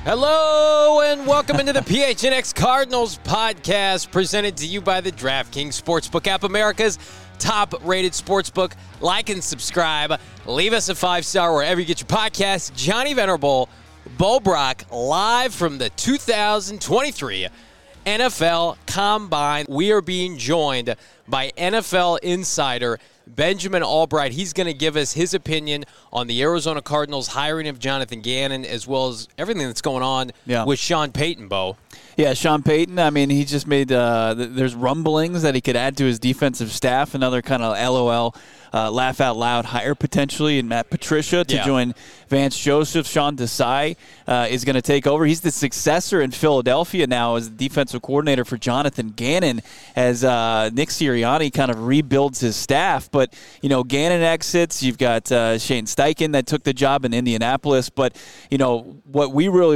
Hello and welcome into the PHNX Cardinals podcast, presented to you by the DraftKings Sportsbook app, America's top-rated sportsbook. Like and subscribe. Leave us a 5-star wherever you get your podcasts. Johnny Venerable, Bo Brock, live from the 2023 NFL Combine. We are being joined by NFL insider Benjamin Albright. He's going to give us his opinion on the Arizona Cardinals hiring of Jonathan Gannon, as well as everything that's going on with Sean Payton, Bo. Yeah, Sean Payton, I mean, he just made there's rumblings that he could add to his defensive staff, another kind of LOL, laugh out loud hire potentially, and Matt Patricia to join Vance Joseph. Sean Desai is going to take over. He's the successor in Philadelphia now as defensive coordinator for Jonathan Gannon, as Nick Sirianni kind of rebuilds his staff. But, you know, Gannon exits. You've got Shane Steichen that took the job in Indianapolis. But, you know, what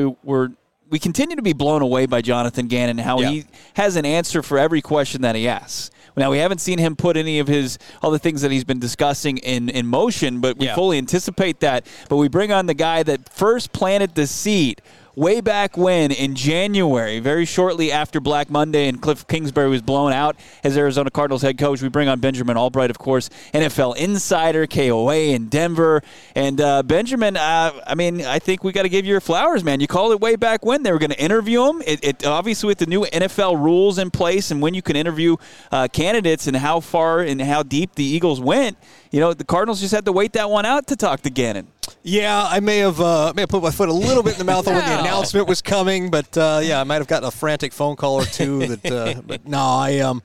we continue to be blown away by Jonathan Gannon, how he has an answer for every question that he asks. Now, we haven't seen him put any of all the things that he's been discussing in motion, but we fully anticipate that. But we bring on the guy that first planted the seed way back when in January, very shortly after Black Monday and Cliff Kingsbury was blown out as Arizona Cardinals head coach. We bring on Benjamin Albright, of course, NFL insider, KOA in Denver. And Benjamin, I mean, I think we got to give you your flowers, man. You called it way back when. They were going to interview him. It obviously, with the new NFL rules in place and when you can interview candidates and how far and how deep the Eagles went, you know, the Cardinals just had to wait that one out to talk to Gannon. Yeah, I may have put my foot a little bit in the mouth when the announcement was coming, but I might have gotten a frantic phone call or two. But no,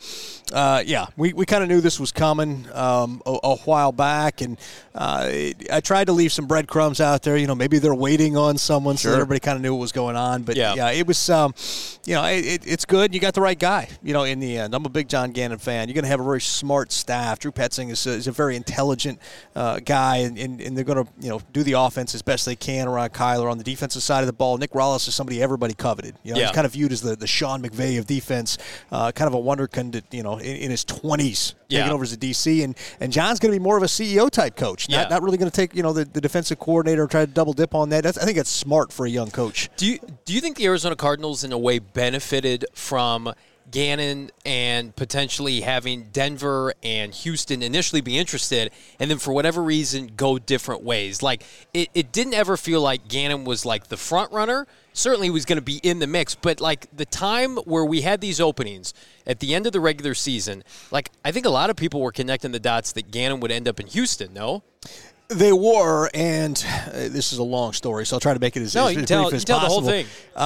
we kind of knew this was coming a while back, and I tried to leave some breadcrumbs out there. You know, maybe they're waiting on someone, so that everybody kind of knew what was going on. But it was, it's good. You got the right guy. You know, in the end, I'm a big John Gannon fan. You're going to have a very smart staff. Drew Petzing is a very intelligent guy, and they're going to do the offense as best they can around Kyler. On the defensive side of the ball, Nick Rallis is somebody everybody coveted. You know, he's kind of viewed as the Sean McVay of defense, kind of a wonderkind, in his 20s, taking over as a DC. And John's going to be more of a CEO type coach, not really going to take the defensive coordinator and try to double dip on that. I think that's smart for a young coach. Do you think the Arizona Cardinals in a way benefited from Gannon and potentially having Denver and Houston initially be interested and then for whatever reason go different ways? Like, it didn't ever feel like Gannon was like the front runner. Certainly he was going to be in the mix, but like the time where we had these openings at the end of the regular season, like I think a lot of people were connecting the dots that Gannon would end up in Houston, no? They were, and this is a long story, so I'll try to make it as brief as possible. Tell the whole thing.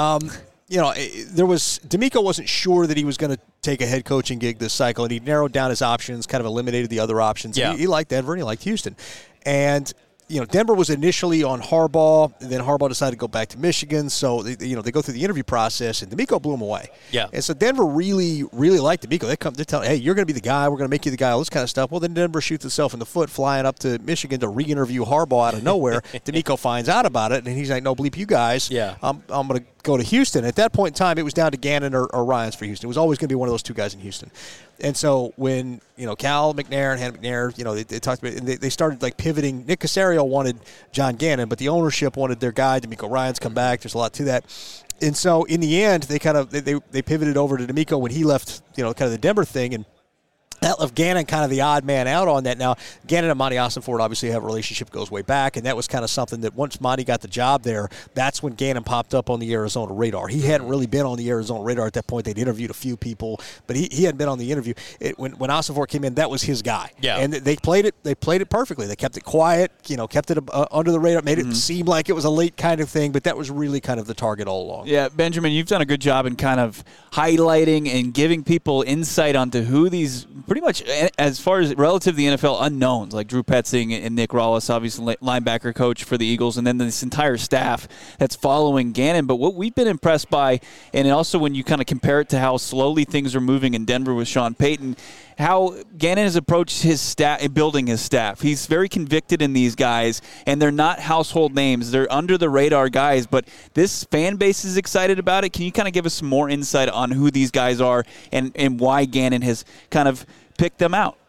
DeMeco wasn't sure that he was going to take a head coaching gig this cycle, and he narrowed down his options, kind of eliminated the other options. Yeah. He liked Denver and he liked Houston. And Denver was initially on Harbaugh, and then Harbaugh decided to go back to Michigan. So they go through the interview process, and DeMeco blew him away. Yeah. And so Denver really, really liked DeMeco. They're telling, hey, you're going to be the guy. We're going to make you the guy. All this kind of stuff. Well, then Denver shoots itself in the foot, flying up to Michigan to re-interview Harbaugh out of nowhere. DeMeco finds out about it, and he's like, no, bleep you guys. Yeah. I'm going to go to Houston. At that point in time, it was down to Gannon or Ryans for Houston. It was always going to be one of those two guys in Houston. And so when, Cal McNair and Hannah McNair, they talked about it, and they started like pivoting. Nick Caserio wanted John Gannon, but the ownership wanted their guy, DeMeco Ryans, come back. There's a lot to that. And so in the end, they kind of they pivoted over to DeMeco when he left, kind of the Denver thing, and that left Gannon kind of the odd man out on that. Now, Gannon and Monty Ossenford obviously have a relationship that goes way back, and that was kind of something that once Monty got the job there, that's when Gannon popped up on the Arizona radar. He hadn't really been on the Arizona radar at that point. They'd interviewed a few people, but he hadn't been on the interview. When Ossenford came in, that was his guy. Yeah. And they played it perfectly. They kept it quiet, kept it under the radar, made it seem like it was a late kind of thing, but that was really kind of the target all along. Yeah, Benjamin, you've done a good job in kind of highlighting and giving people insight onto who these pretty much, as far as relative to the NFL, unknowns, like Drew Petzing and Nick Rallis, obviously linebacker coach for the Eagles, and then this entire staff that's following Gannon. But what we've been impressed by, and also when you kind of compare it to how slowly things are moving in Denver with Sean Payton, how Gannon has approached his staff, building his staff. He's very convicted in these guys, and they're not household names. They're under-the-radar guys, but this fan base is excited about it. Can you kind of give us some more insight on who these guys are and why Gannon has kind of picked them out?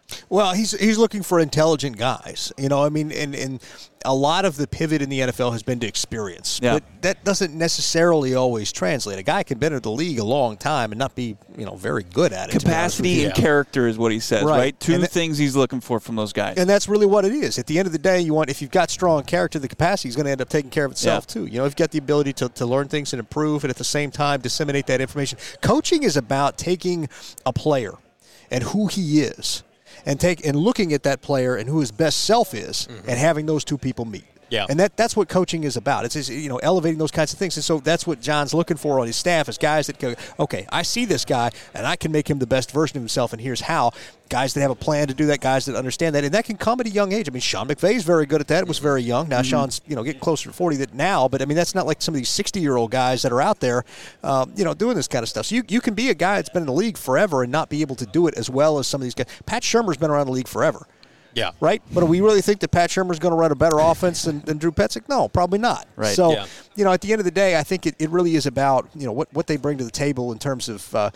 Well, he's looking for intelligent guys. I mean, and a lot of the pivot in the NFL has been to experience. Yeah. But that doesn't necessarily always translate. A guy can be in the league a long time and not be, very good at it. Capacity and character is what he says, right? Two things he's looking for from those guys. And that's really what it is. At the end of the day, if you've got strong character, the capacity is going to end up taking care of itself too. If you've got the ability to learn things and improve and at the same time disseminate that information. Coaching is about taking a player and who he is and looking at that player and who his best self is and having those two people meet. Yeah. And that's what coaching is about. It's elevating those kinds of things. And so that's what John's looking for on his staff is guys that go, okay, I see this guy and I can make him the best version of himself, and here's how. Guys that have a plan to do that, guys that understand that, and that can come at a young age. I mean, Sean McVay's very good at that. It was very young. Now Sean's getting closer to 40 now, but I mean that's not like some of these 60-year-old guys that are out there, doing this kind of stuff. So you can be a guy that's been in the league forever and not be able to do it as well as some of these guys. Pat Shurmur's been around the league forever. Yeah. Right? But do we really think that Pat Shurmur's going to run a better offense than Drew Petzing? No, probably not. Right. So, at the end of the day, I think it really is about, what they bring to the table in terms of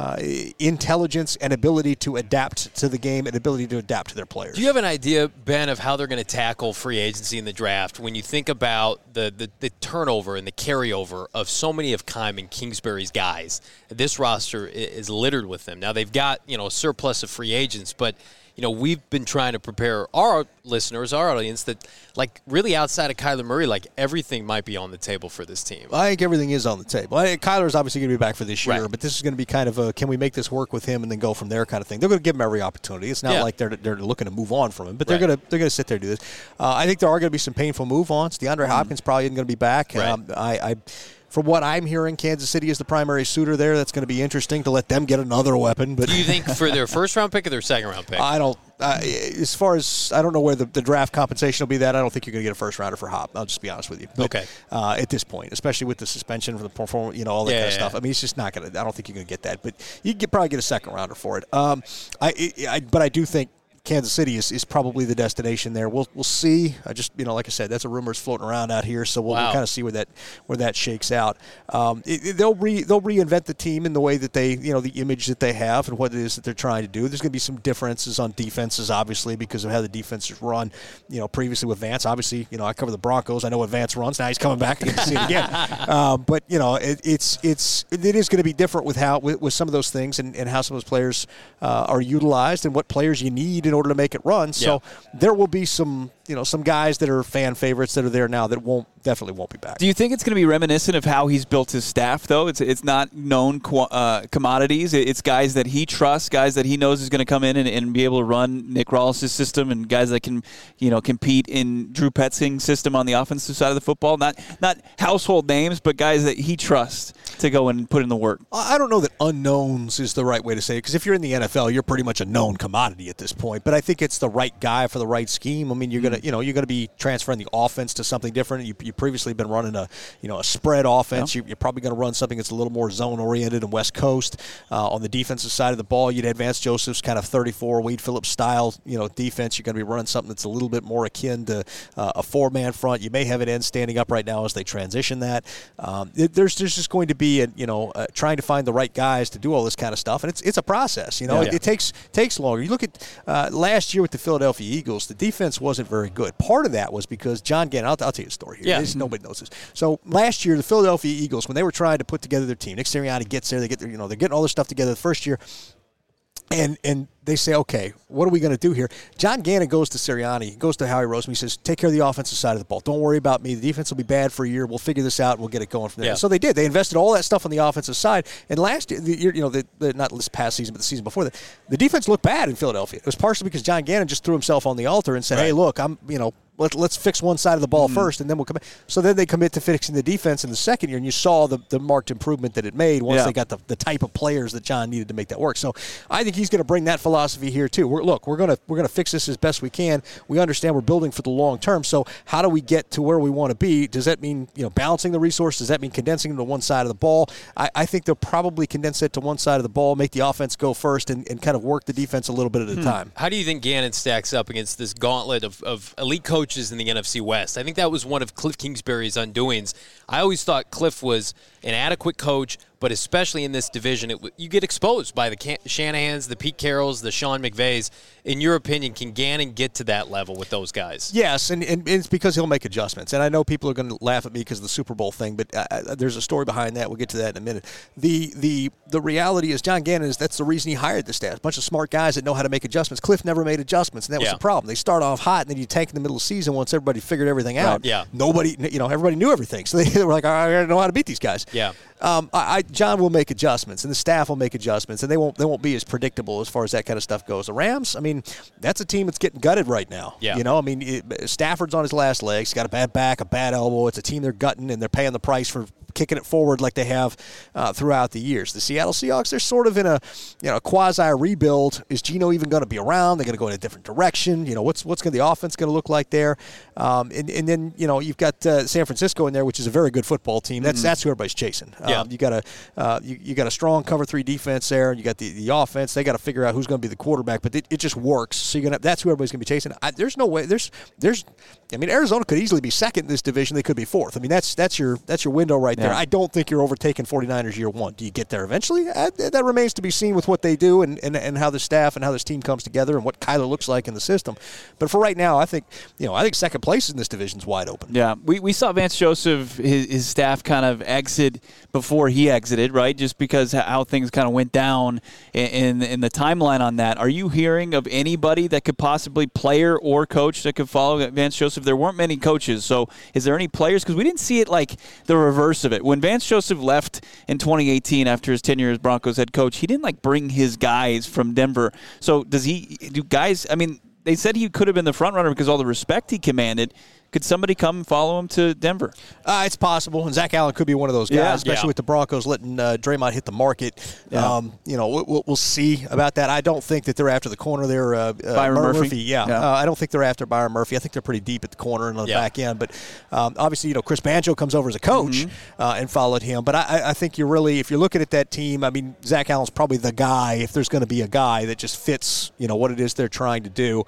intelligence and ability to adapt to the game and ability to adapt to their players. Do you have an idea, Ben, of how they're going to tackle free agency in the draft when you think about the turnover and the carryover of so many of Keim and Kingsbury's guys? This roster is littered with them. Now, they've got, a surplus of free agents, but we've been trying to prepare our listeners, our audience, that, really outside of Kyler Murray, everything might be on the table for this team. I think everything is on the table. Kyler's obviously going to be back for this year, but this is going to be kind of a, can we make this work with him and then go from there kind of thing. They're going to give him every opportunity. It's not like they're looking to move on from him, but they're going to sit there and do this. I think there are going to be some painful move-ons. DeAndre Hopkins probably isn't going to be back. Right. From what I'm hearing, Kansas City is the primary suitor there. That's going to be interesting to let them get another weapon. But do you think for their first-round pick or their second-round pick? I don't. As far as I don't know where the draft compensation will be. That I don't think you're going to get a first-rounder for Hop. I'll just be honest with you. But, okay. At this point, especially with the suspension for the performance, all that kind of stuff. I mean, it's just not going to. I don't think you're going to get that. But you can probably get a second-rounder for it. But I do think Kansas City is probably the destination there. We'll see. I just like I said, that's a rumor's floating around out here, so we'll kind of see where that shakes out. They'll reinvent the team in the way that they the image that they have and what it is that they're trying to do. There's going to be some differences on defenses, obviously, because of how the defenses run. Previously with Vance, obviously, I cover the Broncos. I know what Vance runs. Now he's coming back. I get to see it again. But it is going to be different with some of those things and how some of those players are utilized and what players you need in order to make it run. So there will be some guys that are fan favorites that are there now that definitely won't be back. Do you think it's going to be reminiscent of how he's built his staff, though? It's not known commodities. It's guys that he trusts, guys that he knows is going to come in and be able to run Nick Rawls' system, and guys that can compete in Drew Petzing's system on the offensive side of the football. Not household names, but guys that he trusts to go and put in the work. I don't know that unknowns is the right way to say it, because if you're in the NFL, you're pretty much a known commodity at this point. But I think it's the right guy for the right scheme. I mean, you're gonna be transferring the offense to something different. You've previously been running a spread offense. You're probably going to run something that's a little more zone oriented and West Coast. On the defensive side of the ball, you'd have Vance Joseph's kind of 34 Wade Phillips style defense. You're going to be running something that's a little bit more akin to a 4-man front. You may have an end standing up right now as they transition that. There's just going to be trying to find the right guys to do all this kind of stuff, and it's a process. It takes longer. You look at last year with the Philadelphia Eagles, the defense wasn't very good. Part of that was because John Gannon. I'll tell you a story here. Yeah. Nobody knows this. So last year, the Philadelphia Eagles, when they were trying to put together their team, Nick Sirianni gets there. They're getting all this stuff together the first year. And they say, okay, what are we going to do here? John Gannon goes to Sirianni, goes to Howie Roseman. He says, take care of the offensive side of the ball. Don't worry about me. The defense will be bad for a year. We'll figure this out. We'll get it going from there. Yeah. So they did. They invested all that stuff on the offensive side. And last year, not this past season, but the season before that, the defense looked bad in Philadelphia. It was partially because John Gannon just threw himself on the altar and said, hey, look, let's fix one side of the ball first, and then we'll come back. So then they commit to fixing the defense in the second year, and you saw the marked improvement that it made once they got the type of players that John needed to make that work. So I think he's going to bring that philosophy here too. We're going to fix this as best we can. We understand we're building for the long term. So how do we get to where we want to be? Does that mean balancing the resources? Does that mean condensing them to one side of the ball? I think they'll probably condense it to one side of the ball, make the offense go first, and kind of work the defense a little bit at a time. How do you think Gannon stacks up against this gauntlet of elite coaches in the NFC West? I think that was one of Cliff Kingsbury's undoings. I always thought Cliff was an adequate coach, but especially in this division, you get exposed by the Shanahans, the Pete Carrolls, the Sean McVays. In your opinion, can Gannon get to that level with those guys? Yes, and it's because he'll make adjustments. And I know people are going to laugh at me because of the Super Bowl thing, but there's a story behind that. We'll get to that in a minute. The reality is John Gannon that's the reason he hired the staff. A bunch of smart guys that know how to make adjustments. Cliff never made adjustments, and that was the problem. They start off hot, and then you tank in the middle of the season once everybody figured everything out. Right. Yeah. Nobody, everybody knew everything. So they were like, I gotta know how to beat these guys. Yeah. John will make adjustments, and the staff will make adjustments, and they won't be as predictable as far as that kind of stuff goes. The Rams, I mean, that's a team that's getting gutted right now. Yeah. Stafford's on his last legs. He's got a bad back, a bad elbow. It's a team they're gutting, and they're paying the price for kicking it forward like they have throughout the years. The Seattle Seahawks, they're sort of in a quasi-rebuild. Is Geno even going to be around? They're going to go in a different direction. What's the offense going to look like there? And then you've got San Francisco in there, which is a very good football team. That's who everybody's chasing. You got a strong cover 3 defense there. You got the offense. They got to figure out who's going to be the quarterback, but it just works. So that's who everybody's going to be chasing. There's no way. Arizona could easily be second in this division. They could be fourth. I mean, that's your window right there. I don't think you're overtaking 49ers year one. Do you get there eventually? That remains to be seen with what they do and how the staff and how this team comes together and what Kyler looks like in the system. But for right now, I think second place in this division is wide open. Yeah, we saw Vance Joseph, his staff kind of exit before he exited, right? Just because how things kind of went down in the timeline on that. Are you hearing of anybody that could possibly, player or coach, that could follow Vance Joseph? There weren't many coaches, so is there any players? Because we didn't see it like the reverse of it. When Vance Joseph left in 2018 after his tenure as Broncos head coach, he didn't bring his guys from Denver. So do guys, I mean, they said he could have been the front runner because all the respect he commanded. Could somebody come and follow him to Denver? It's possible, and Zach Allen could be one of those guys, especially with the Broncos letting Draymond hit the market. Yeah. We'll see about that. I don't think that they're after the corner there. Byron Murphy. Yeah. I don't think they're after Byron Murphy. I think they're pretty deep at the corner and on the back end. But obviously, Chris Banjo comes over as a coach and followed him. But I think if you're looking at that team, I mean, Zach Allen's probably the guy, if there's going to be a guy that just fits, what it is they're trying to do.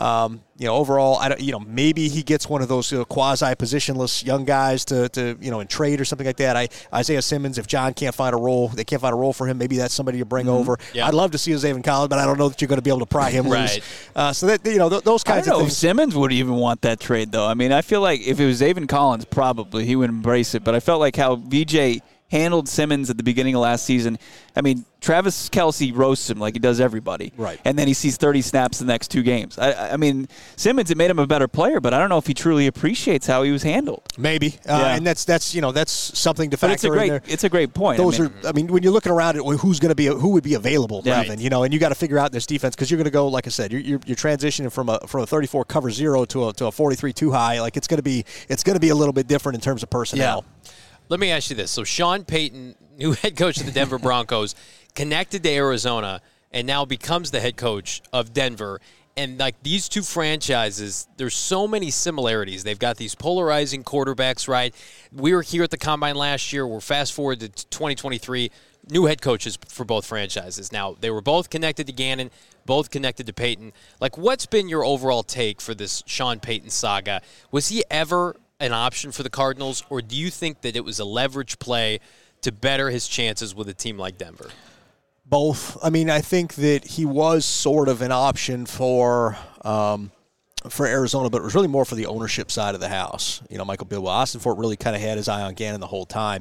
Overall, maybe he gets one of those quasi-positionless young guys to in trade or something like that. Isaiah Simmons, if John can't find a role, they can't find a role for him. Maybe that's somebody to bring over. Yeah. I'd love to see Zaven Collins, but I don't know that you're going to be able to pry him loose. So that those kinds of things. If Simmons would even want that trade, though. I mean, I feel like if it was Zaven Collins, probably he would embrace it. But I felt like how VJ handled Simmons at the beginning of last season. I mean, Travis Kelce roasts him like he does everybody. Right. And then he sees 30 snaps the next 2 games. I mean, Simmons, it made him a better player, but I don't know if he truly appreciates how he was handled. Maybe. And that's something to factor in there. It's a great point. When you're looking around at who would be available even, and you got to figure out this defense because you're going to go, like I said, you're transitioning from a 34 cover 0 to a 43 too high. Like it's going to be a little bit different in terms of personnel. Yeah. Let me ask you this. So Sean Payton, new head coach of the Denver Broncos, connected to Arizona and now becomes the head coach of Denver. And these two franchises, there's so many similarities. They've got these polarizing quarterbacks, right? We were here at the Combine last year. We're fast forward to 2023. New head coaches for both franchises. Now, they were both connected to Gannon, both connected to Payton. What's been your overall take for this Sean Payton saga? Was he ever an option for the Cardinals, or do you think that it was a leverage play to better his chances with a team like Denver? Both. I mean, I think that he was sort of an option for Arizona, but it was really more for the ownership side of the house. Michael Bidwell, Austin Fort really kind of had his eye on Gannon the whole time.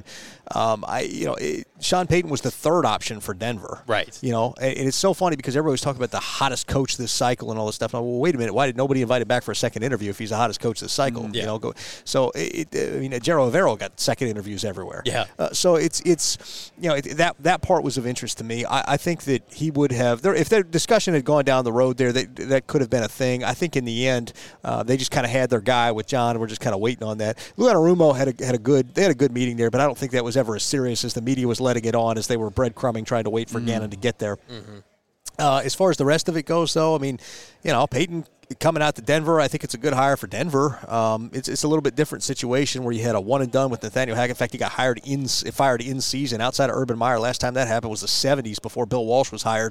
Sean Payton was the third option for Denver. Right. And it's so funny because everybody's talking about the hottest coach this cycle and all this stuff. And wait a minute, why did nobody invite him back for a second interview if he's the hottest coach this cycle? Yeah. So Jero Avero got second interviews everywhere. Yeah. So it's that part was of interest to me. I think that he would have if their discussion had gone down the road there, that could have been a thing. I think in the end, they just kind of had their guy with John, and we're just kind of waiting on that. Lou Anarumo had a good meeting there, but I don't think that was ever as serious as the media was letting it on as they were breadcrumbing trying to wait for Gannon to get there. As far as the rest of it goes, though, I mean, Payton coming out to Denver, I think it's a good hire for Denver. It's a little bit different situation where you had a one and done with Nathaniel Hackett. In fact, he got fired in season outside of Urban Meyer. Last time that happened was the 70s before Bill Walsh was hired.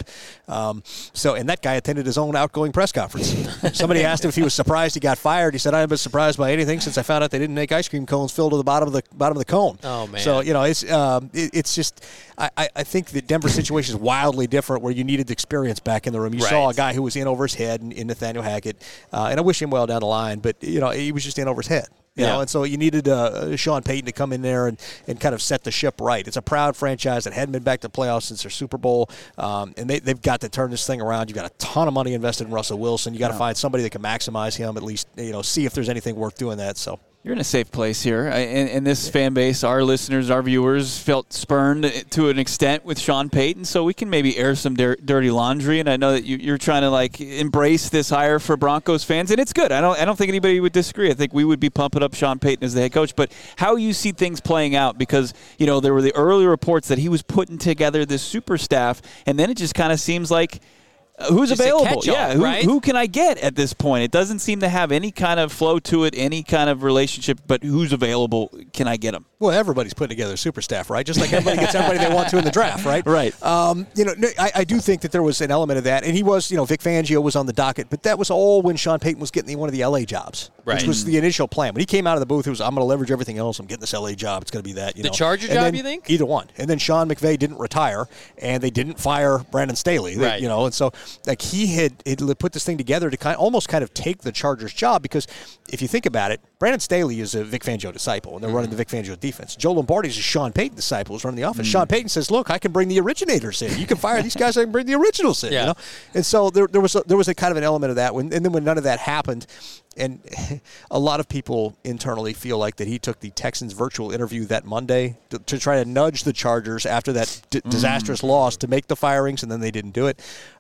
And that guy attended his own outgoing press conference. Somebody asked him if he was surprised he got fired. He said, "I haven't been surprised by anything since I found out they didn't make ice cream cones filled to the bottom of the cone." Oh man! So it's just I think the Denver situation is wildly different where you needed experience back in the room. You saw a guy who was in over his head in Nathaniel Hackett, and I wish him well down the line, but he was just in over his head. You know, and so you needed Sean Payton to come in there and kind of set the ship right. It's a proud franchise that hadn't been back to the playoffs since their Super Bowl, and they've got to turn this thing around. You've got a ton of money invested in Russell Wilson. You got to find somebody that can maximize him, at least see if there's anything worth doing that. So. You're in a safe place here. And this fan base, our listeners, our viewers, felt spurned to an extent with Sean Payton, so we can maybe air some dirty laundry. And I know that you're trying to embrace this hire for Broncos fans, and it's good. I don't think anybody would disagree. I think we would be pumping up Sean Payton as the head coach. But how you see things playing out, because there were the early reports that he was putting together this super staff, and then it just kind of seems like. Who's just available? Who can I get at this point? It doesn't seem to have any kind of flow to it, any kind of relationship, but who's available? Can I get them? Well, everybody's putting together a super staff, right? Just like everybody gets everybody they want to in the draft, right? Right. I do think that there was an element of that, and he was, Vic Fangio was on the docket, but that was all when Sean Payton was getting one of the LA jobs, which was the initial plan. When he came out of the booth, it was, I'm going to leverage everything else. I'm getting this LA job. It's going to be that. The Charger job, you think? Either one. And then Sean McVay didn't retire, and they didn't fire Brandon Staley. Right. And so he had put this thing together to almost take the Chargers job, because if you think about it, Brandon Staley is a Vic Fangio disciple, and they're running the Vic Fangio defense. Joe Lombardi is a Sean Payton disciple, who's running the offense. Sean Payton says, "Look, I can bring the originators in. You can fire these guys. I can bring the originals in." Yeah. And so there was a kind of an element of that. And then when none of that happened, and a lot of people internally feel like that he took the Texans virtual interview that Monday to try to nudge the Chargers after that disastrous loss to make the firings, and then they didn't do it.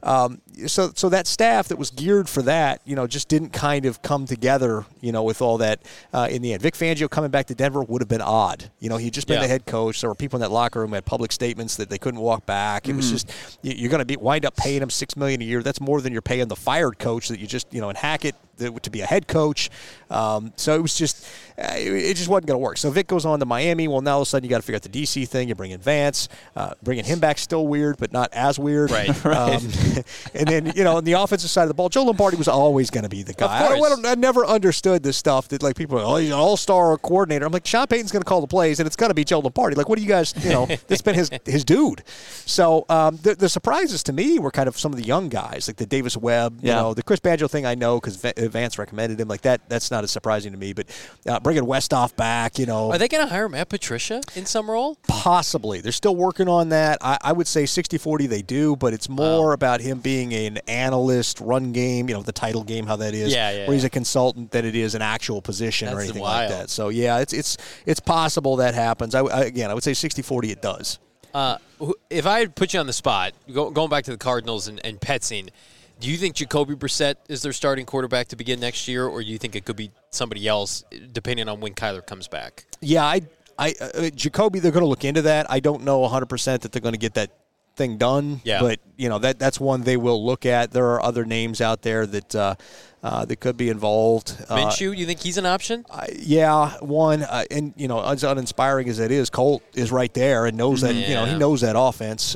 So that staff that was geared for that, just didn't kind of come together, with all that in the end. Vic Fangio coming back to Denver would have been odd. He'd just been the head coach. There were people in that locker room who had public statements that they couldn't walk back. It was just, you're going to wind up paying him $6 million a year. That's more than you're paying the fired coach that you just, and Hackett to be a head coach. So it was just, it just wasn't going to work. So Vic goes on to Miami. Well, now all of a sudden you got to figure out the DC thing. You bring in Vance. Bringing him back still weird, but not as weird. Right. And then, on the offensive side of the ball, Joe Lombardi was always going to be the guy. I never understood this stuff that people are, he's an all-star coordinator. I'm like, Sean Payton's going to call the plays, and it's got to be Joe Lombardi. Like, what do you guys, that's been his dude. So the surprises to me were kind of some of the young guys, like the Davis Webb, the Chris Banjo thing I know because Vance recommended him. Like that's not as surprising to me. But bringing Westhoff back, Are they going to hire Matt Patricia in some role? Possibly. They're still working on that. I would say 60-40 they do, but it's more about him being an analyst, run game, the title game, how that is, where he's a consultant, than it is an actual position or anything like that. So, yeah, it's possible that happens. I would say 60-40 it does. If I had put you on the spot, going back to the Cardinals and Petsing, do you think Jacoby Brissett is their starting quarterback to begin next year, or do you think it could be somebody else, depending on when Kyler comes back? Yeah, Jacoby, they're going to look into that. I don't know 100% that they're going to get that thing done, but that's one they will look at. There are other names out there that could be involved. Minshew, you think he's an option? One, and as uninspiring as it is, Colt is right there and knows that he knows that offense.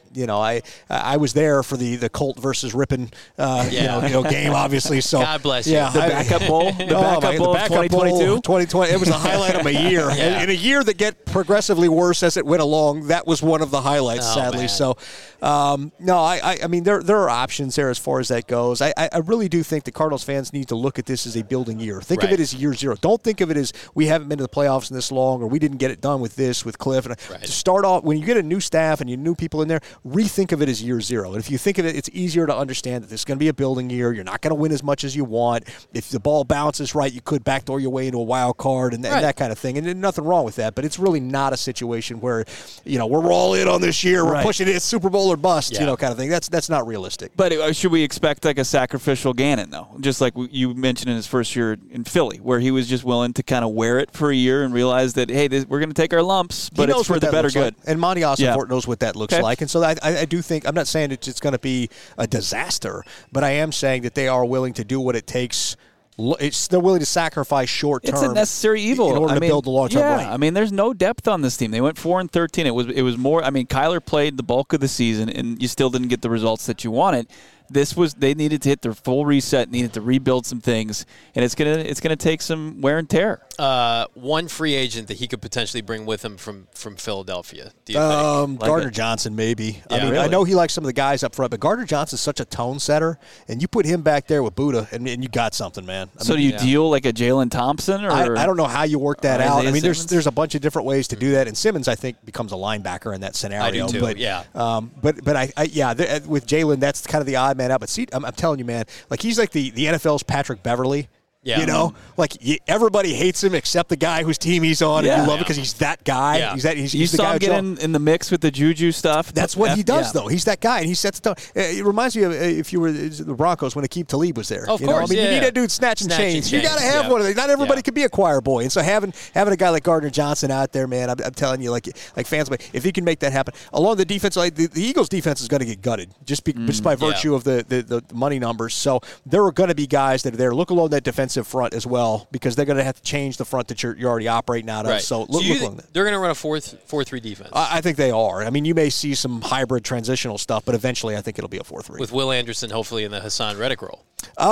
I was there for the Colt versus Rippon game, obviously. So God bless you. The backup bowl, the backup bowl of 2022, 2020. It was the highlight of my year. In a year that get progressively worse as it went along, that was one of the highlights. Sadly, man. So I mean there are options there as far as that goes. I really do think the Cardinals fans need to look at this as a building year. Think of it as year zero. Don't think of it as we haven't been to the playoffs in this long, or we didn't get it done with Cliff. And to start off, when you get a new staff and you new people in there, rethink of it as year zero. And if you think of it, it's easier to understand that this is going to be a building year. You're not going to win as much as you want. If the ball bounces right, you could backdoor your way into a wild card and that kind of thing. And there's nothing wrong with that. But it's really not a situation where, we're all in on this year. We're pushing it. It's Super Bowl or bust, kind kind of thing. That's not realistic. But should we expect like a sacrificial Gannon, though? Just like you mentioned in his first year in Philly, where he was just willing to kind of wear it for a year and realize that, hey, we're going to take our lumps, but it's for the better good. Like. And Monty Ossenfort knows what that looks like. And so I do think, I'm not saying it's going to be a disaster, but I am saying that they are willing to do what it takes. They're willing to sacrifice short term. It's a necessary evil in order to build the long term. Yeah, I mean, there's no depth on this team. They went 4-13. It was more. I mean, Kyler played the bulk of the season, and you still didn't get the results that you wanted. They needed to hit their full reset, needed to rebuild some things, and it's gonna take some wear and tear. One free agent that he could potentially bring with him from Philadelphia. Do you think? Gardner Johnson, maybe. Yeah, I mean, really? I know he likes some of the guys up front, but Gardner Johnson's such a tone setter, and you put him back there with Buddha, and you got something, man. Do you deal like a Jalen Thompson, or I don't know how you work that out. I mean, Simmons? there's a bunch of different ways to do that, and Simmons, I think, becomes a linebacker in that scenario. I do too. But, with Jalen, that's kind of the odd man out. But see, I'm telling you, man, like he's like the NFL's Patrick Beverly. Yeah. You know, like everybody hates him except the guy whose team he's on, and you love it because he's that guy. Yeah. He's you the saw guy him get in the mix with the Juju stuff. That's what he does, though. He's that guy, and he sets the tone. It reminds me of if you were the Broncos when Aqib Talib was there. Of course, course, I mean, you need that dude snatching chains. You got to have one of these. Not everybody can be a choir boy, and so having a guy like Gardner Johnson out there, man, I'm telling you, like fans, if he can make that happen along the defense, like the Eagles' defense is going to get gutted just by virtue of the money numbers. So there are going to be guys that are there. Look along that defensive front as well, because they're going to have to change the front that you're already operating out of. Right. So look along that. They're going to run a 4-3 defense. I think they are. I mean, you may see some hybrid transitional stuff, but eventually I think it'll be a 4-3. With Will Anderson hopefully in the Hassan Reddick role.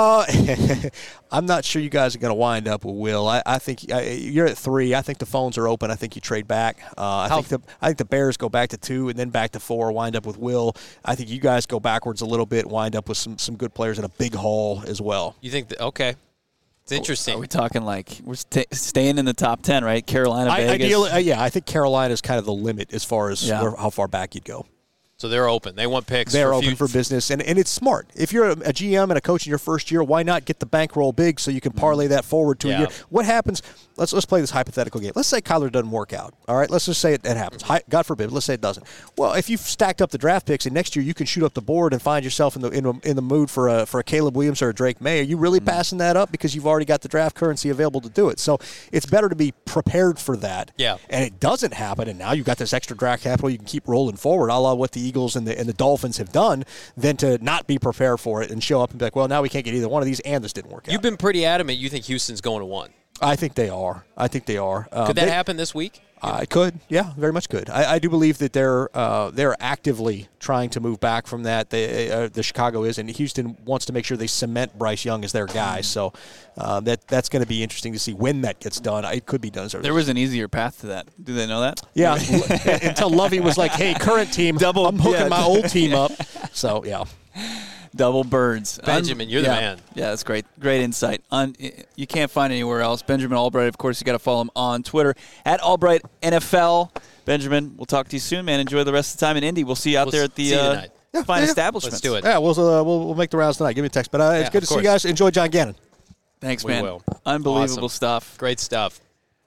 I'm not sure you guys are going to wind up with Will. I think you're at 3. I think the phones are open. I think you trade back. I think the Bears go back to 2 and then back to 4, wind up with Will. I think you guys go backwards a little bit, wind up with some good players in a big haul as well. You think that, okay. It's interesting. Are we talking like we're staying in the top 10, right? Carolina, Vegas? Ideally, I think Carolina is kind of the limit as far as how far back you'd go. So they're open. They want picks. They're open for business, and it's smart. If you're a GM and a coach in your first year, why not get the bankroll big so you can parlay that forward to a year? What happens? Let's play this hypothetical game. Let's say Kyler doesn't work out. All right, let's just say it happens. God forbid. Let's say it doesn't. Well, if you've stacked up the draft picks, and next year you can shoot up the board and find yourself in the mood for a Caleb Williams or a Drake May, are you really passing that up because you've already got the draft currency available to do it? So it's better to be prepared for that. Yeah. And it doesn't happen, and now you've got this extra draft capital. You can keep rolling forward, a la what the Eagles and the Dolphins have done, than to not be prepared for it and show up and be like, well, now we can't get either one of these, and this didn't work out. You've been pretty adamant you think Houston's going to 1. I think they are. Could that happen this week? It could. Yeah, very much could. I do believe that they're actively trying to move back from that. The Chicago is, and Houston wants to make sure they cement Bryce Young as their guy. So that's going to be interesting to see when that gets done. It could be done. There was an easier path to that. Do they know that? Yeah, until Lovey was like, "Hey, current team, I'm hooking my old team up." So yeah. Double birds. Benjamin, you're the man. Yeah, that's great. Great insight. You can't find anywhere else. Benjamin Albright, of course, you got to follow him on Twitter, @AlbrightNFL. Benjamin, we'll talk to you soon, man. Enjoy the rest of the time in Indy. We'll see you out there at the fine establishments. Let's do it. Yeah, we'll make the rounds tonight. Give me a text. But it's good to see you guys. Enjoy John Gannon. Thanks, We man. will. Unbelievable Awesome. stuff. Great stuff.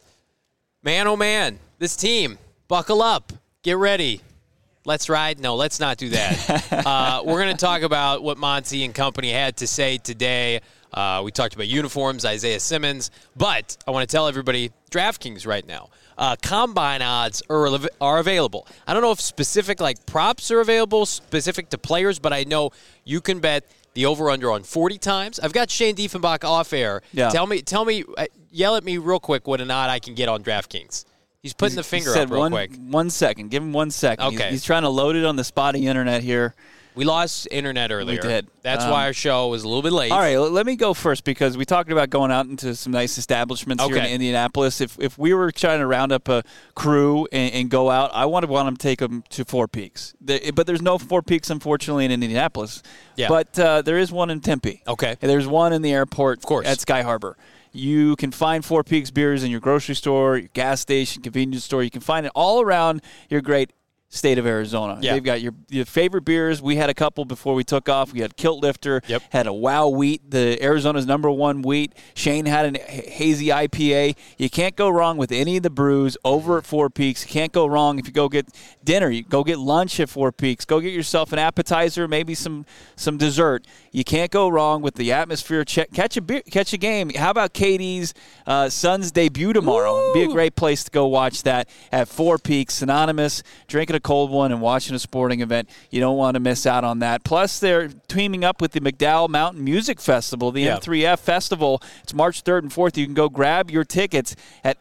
Man, oh, man. This team, buckle up. Get ready. Let's ride. No, let's not do that. We're going to talk about what Monty and company had to say today. We talked about uniforms, Isaiah Simmons. But I want to tell everybody, DraftKings right now, combine odds are available. I don't know if specific props are available, specific to players, but I know you can bet the over-under on 40 times. I've got Shane Diefenbach off air. Yeah. Tell me, yell at me real quick what an odd I can get on DraftKings. He's putting the finger up real quick. 1 second. Give him 1 second. Okay. He's trying to load it on the spotty internet here. We lost internet earlier. We did. That's why our show was a little bit late. All right, let me go first because we talked about going out into some nice establishments here in Indianapolis. If we were trying to round up a crew and go out, I want to take them to Four Peaks. But there's no Four Peaks, unfortunately, in Indianapolis. Yeah. But there is one in Tempe. Okay. And there's one in the airport of course. At Sky Harbor. You can find Four Peaks beers in your grocery store, your gas station, convenience store. You can find it all around your great state of Arizona. Yeah. They've got your favorite beers. We had a couple before we took off. We had Kilt Lifter, had a Wow Wheat, the Arizona's #1 wheat. Shane had a hazy IPA. You can't go wrong with any of the brews over at Four Peaks. You can't go wrong if you go get dinner. You go get lunch at Four Peaks. Go get yourself an appetizer, maybe some dessert. You can't go wrong with the atmosphere. Catch a game. How about Katie's Suns debut tomorrow? It'd be a great place to go watch that at Four Peaks, synonymous, drinking a cold one and watching a sporting event. You don't want to miss out on that. Plus, they're teaming up with the McDowell Mountain Music Festival, the M3F Festival. It's March 3rd and 4th. You can go grab your tickets at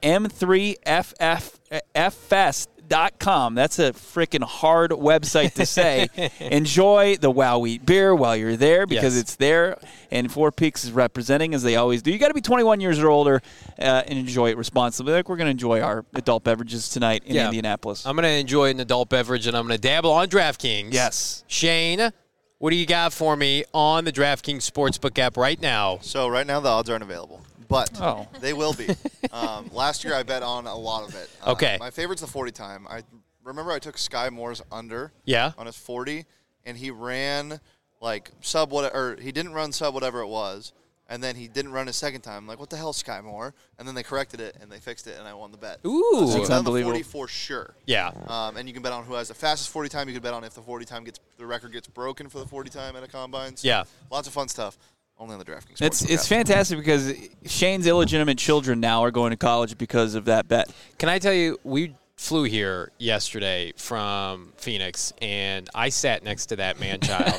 M3FFest.com. That's a freaking hard website to say. Enjoy the Wow Wheat beer while you're there because it's there, and Four Peaks is representing as they always do. You got to be 21 years or older and enjoy it responsibly. Like we're going to enjoy our adult beverages tonight in Indianapolis. I'm going to enjoy an adult beverage, and I'm going to dabble on DraftKings. Yes. Shane, what do you got for me on the DraftKings Sportsbook app right now? So right now the odds aren't available. But they will be. Last year I bet on a lot of it. Okay. My favorite's the 40 time. I remember I took Sky Moore's under on his 40, and he ran like sub whatever, or he didn't run sub whatever it was, and then he didn't run his second time. I'm like, what the hell, Sky Moore? And then they corrected it, and they fixed it, and I won the bet. Ooh. So That's on the unbelievable. 40 for sure. Yeah. And you can bet on who has the fastest 40 time. You can bet on if the 40 time the record gets broken for the 40 time at a combine. So Yeah. Lots of fun stuff. Only on the DraftKings. It's fantastic because Shane's illegitimate children now are going to college because of that bet. Can I tell you, we flew here yesterday from Phoenix, and I sat next to that man-child,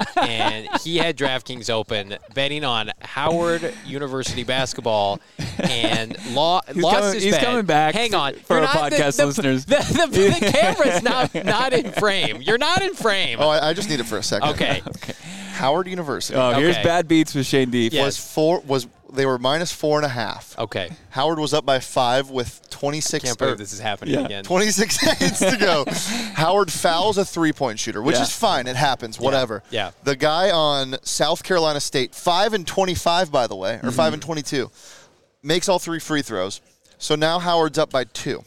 and he had DraftKings open, betting on Howard University basketball, and lost his bet. He's coming back. Hang on. For our podcast listeners. The camera's not in frame. You're not in frame. Oh, I just need it for a second. Okay. Howard University. Oh, here's Bad Beats with Shane Deep. Yes. They were -4.5. Okay. Howard was up by 5 with 26. Can't believe this is happening again. 26 seconds to go. Howard fouls a three-point shooter, which is fine. It happens. Whatever. Yeah. The guy on South Carolina State, 5 and 25, by the way, or 5 and 22, makes all 3 free throws. So now Howard's up by 2.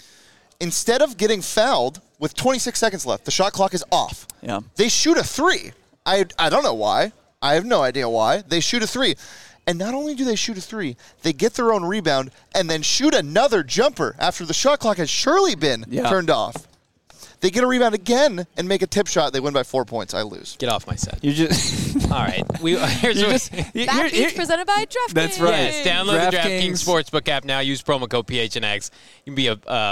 Instead of getting fouled with 26 seconds left, the shot clock is off. Yeah. They shoot a 3. I don't know why. I have no idea why. They shoot a 3. And not only do they shoot a 3, they get their own rebound and then shoot another jumper after the shot clock has surely been turned off. They get a rebound again and make a tip shot. They win by 4 points. I lose. Get off my set. You just All right. Bad Beats presented by DraftKings. That's right. Yes, download the DraftKings Sportsbook app now. Use promo code PHNX. You can be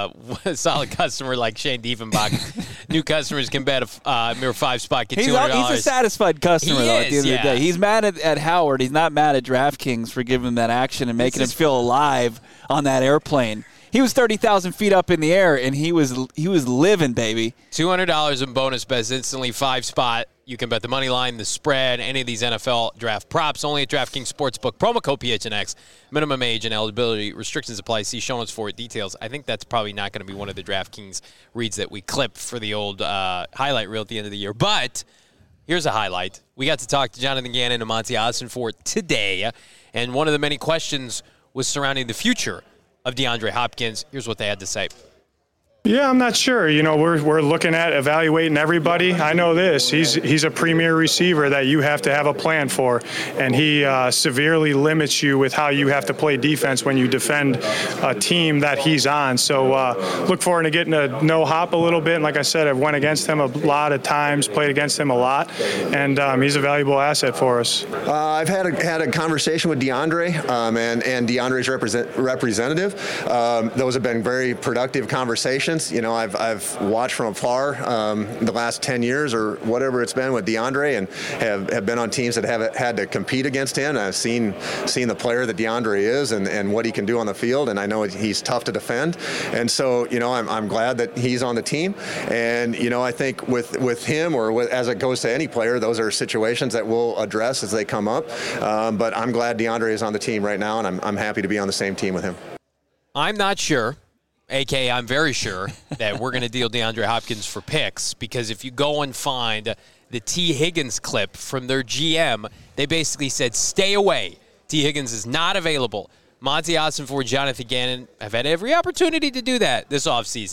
a solid customer like Shane Diefenbach. New customers can bet a mere 5-spot, get $200. He's a satisfied customer, though, at the end of the day. He's mad at Howard. He's not mad at DraftKings for giving him that action and making him feel alive on that airplane. He was 30,000 feet up in the air, and he was living, baby. $200 in bonus bets, instantly 5-spot. You can bet the money line, the spread, any of these NFL draft props. Only at DraftKings Sportsbook. Promo code PHNX. Minimum age and eligibility restrictions apply. See show notes for details. I think that's probably not going to be one of the DraftKings reads that we clip for the old highlight reel at the end of the year. But here's a highlight. We got to talk to Jonathan Gannon and Monty Ossenfort today, and one of the many questions was surrounding the future of DeAndre Hopkins. Here's what they had to say. Yeah, I'm not sure. You know, we're looking at evaluating everybody. I know this. He's a premier receiver that you have to have a plan for, and he severely limits you with how you have to play defense when you defend a team that he's on. So look forward to getting to know Hop a little bit. And like I said, I've went against him a lot of times, played against him a lot, and he's a valuable asset for us. I've had a conversation with DeAndre and DeAndre's representative. Those have been very productive conversations. You know, I've watched from afar the last 10 years or whatever it's been with DeAndre, and have been on teams that have had to compete against him. I've seen the player that DeAndre is and what he can do on the field, and I know he's tough to defend. And so, you know, I'm glad that he's on the team. And, you know, I think with him as it goes to any player, those are situations that we'll address as they come up. But I'm glad DeAndre is on the team right now, and I'm happy to be on the same team with him. I'm not sure. A.K.A. I'm very sure that we're going to deal DeAndre Hopkins for picks, because if you go and find the T. Higgins clip from their GM, they basically said, stay away. T. Higgins is not available. Monty Ossenfort, Jonathan Gannon have had every opportunity to do that this offseason,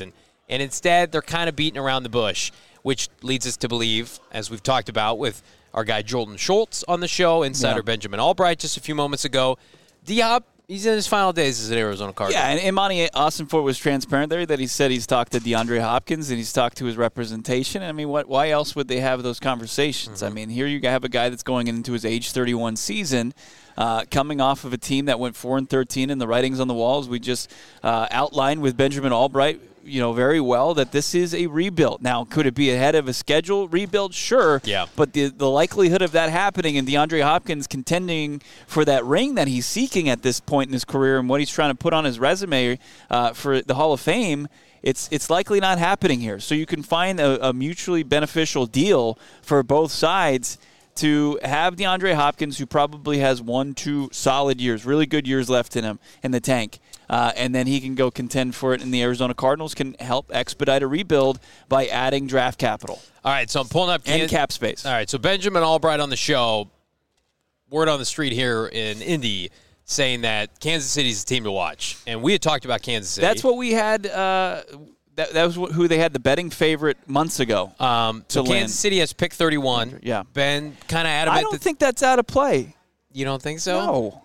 And instead, they're kind of beating around the bush, which leads us to believe, as we've talked about with our guy Jordan Schultz on the show, insider Benjamin Albright just a few moments ago, D-Hop, he's in his final days as an Arizona Cardinal. Yeah, and Imani Ossenfort was transparent there that he said he's talked to DeAndre Hopkins and he's talked to his representation. I mean, why else would they have those conversations? Mm-hmm. I mean, here you have a guy that's going into his age 31 season, coming off of a team that went 4-13 in the writings on the walls. We just outlined with Benjamin Albright, very well that this is a rebuild. Now, could it be ahead of a schedule rebuild? Sure. Yeah. But the likelihood of that happening and DeAndre Hopkins contending for that ring that he's seeking at this point in his career and what he's trying to put on his resume for the Hall of Fame, it's likely not happening here. So you can find a mutually beneficial deal for both sides to have DeAndre Hopkins, who probably has 1-2 solid years, really good years left in him in the tank. And then he can go contend for it, and the Arizona Cardinals can help expedite a rebuild by adding draft capital. All right, so I'm pulling up and cap space. All right, so Benjamin Albright on the show, word on the street here in Indy, saying that Kansas City's a team to watch. And we had talked about Kansas City. That's what we had. That was who they had the betting favorite months ago. So Kansas City has pick 31. Yeah. Ben kind of adamant. I don't think that's out of play. You don't think so? No.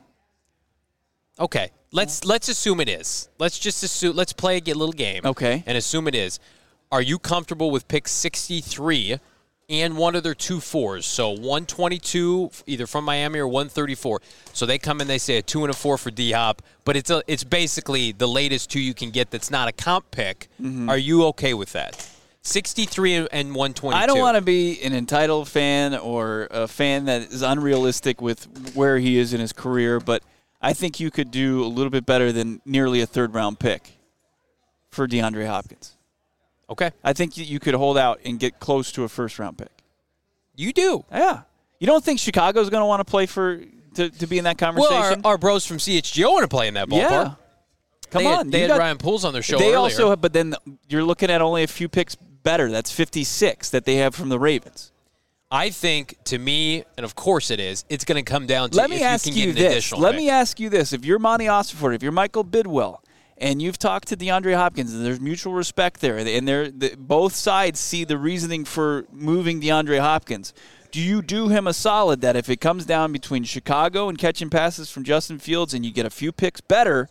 Okay. Let's assume it is. Let's just assume. Let's play a little game. Okay. And assume it is. Are you comfortable with pick 63 and one of their 2 4s? So 122 either from Miami or 134. So they come in, they say a 2 and a 4 for D-Hop, but it's basically the latest 2 you can get that's not a comp pick. Mm-hmm. Are you okay with that? 63 and 122. I don't want to be an entitled fan or a fan that is unrealistic with where he is in his career, but I think you could do a little bit better than nearly a third-round pick for DeAndre Hopkins. Okay. I think you could hold out and get close to a first-round pick. You do? Yeah. You don't think Chicago's going to want to play to be in that conversation? Well, our bros from CHGO want to play in that ballpark. Yeah. Come on. They had Ryan Pools on their show earlier. They also have, but then you're looking at only a few picks better. That's 56 that they have from the Ravens. I think, to me, and of course it is, it's going to come down to if you can get an additional Let pick. me ask you this. If you're Monty Ossenfort, if you're Michael Bidwell, and you've talked to DeAndre Hopkins, and there's mutual respect there, and both sides see the reasoning for moving DeAndre Hopkins, do you do him a solid that if it comes down between Chicago and catching passes from Justin Fields and you get a few picks better,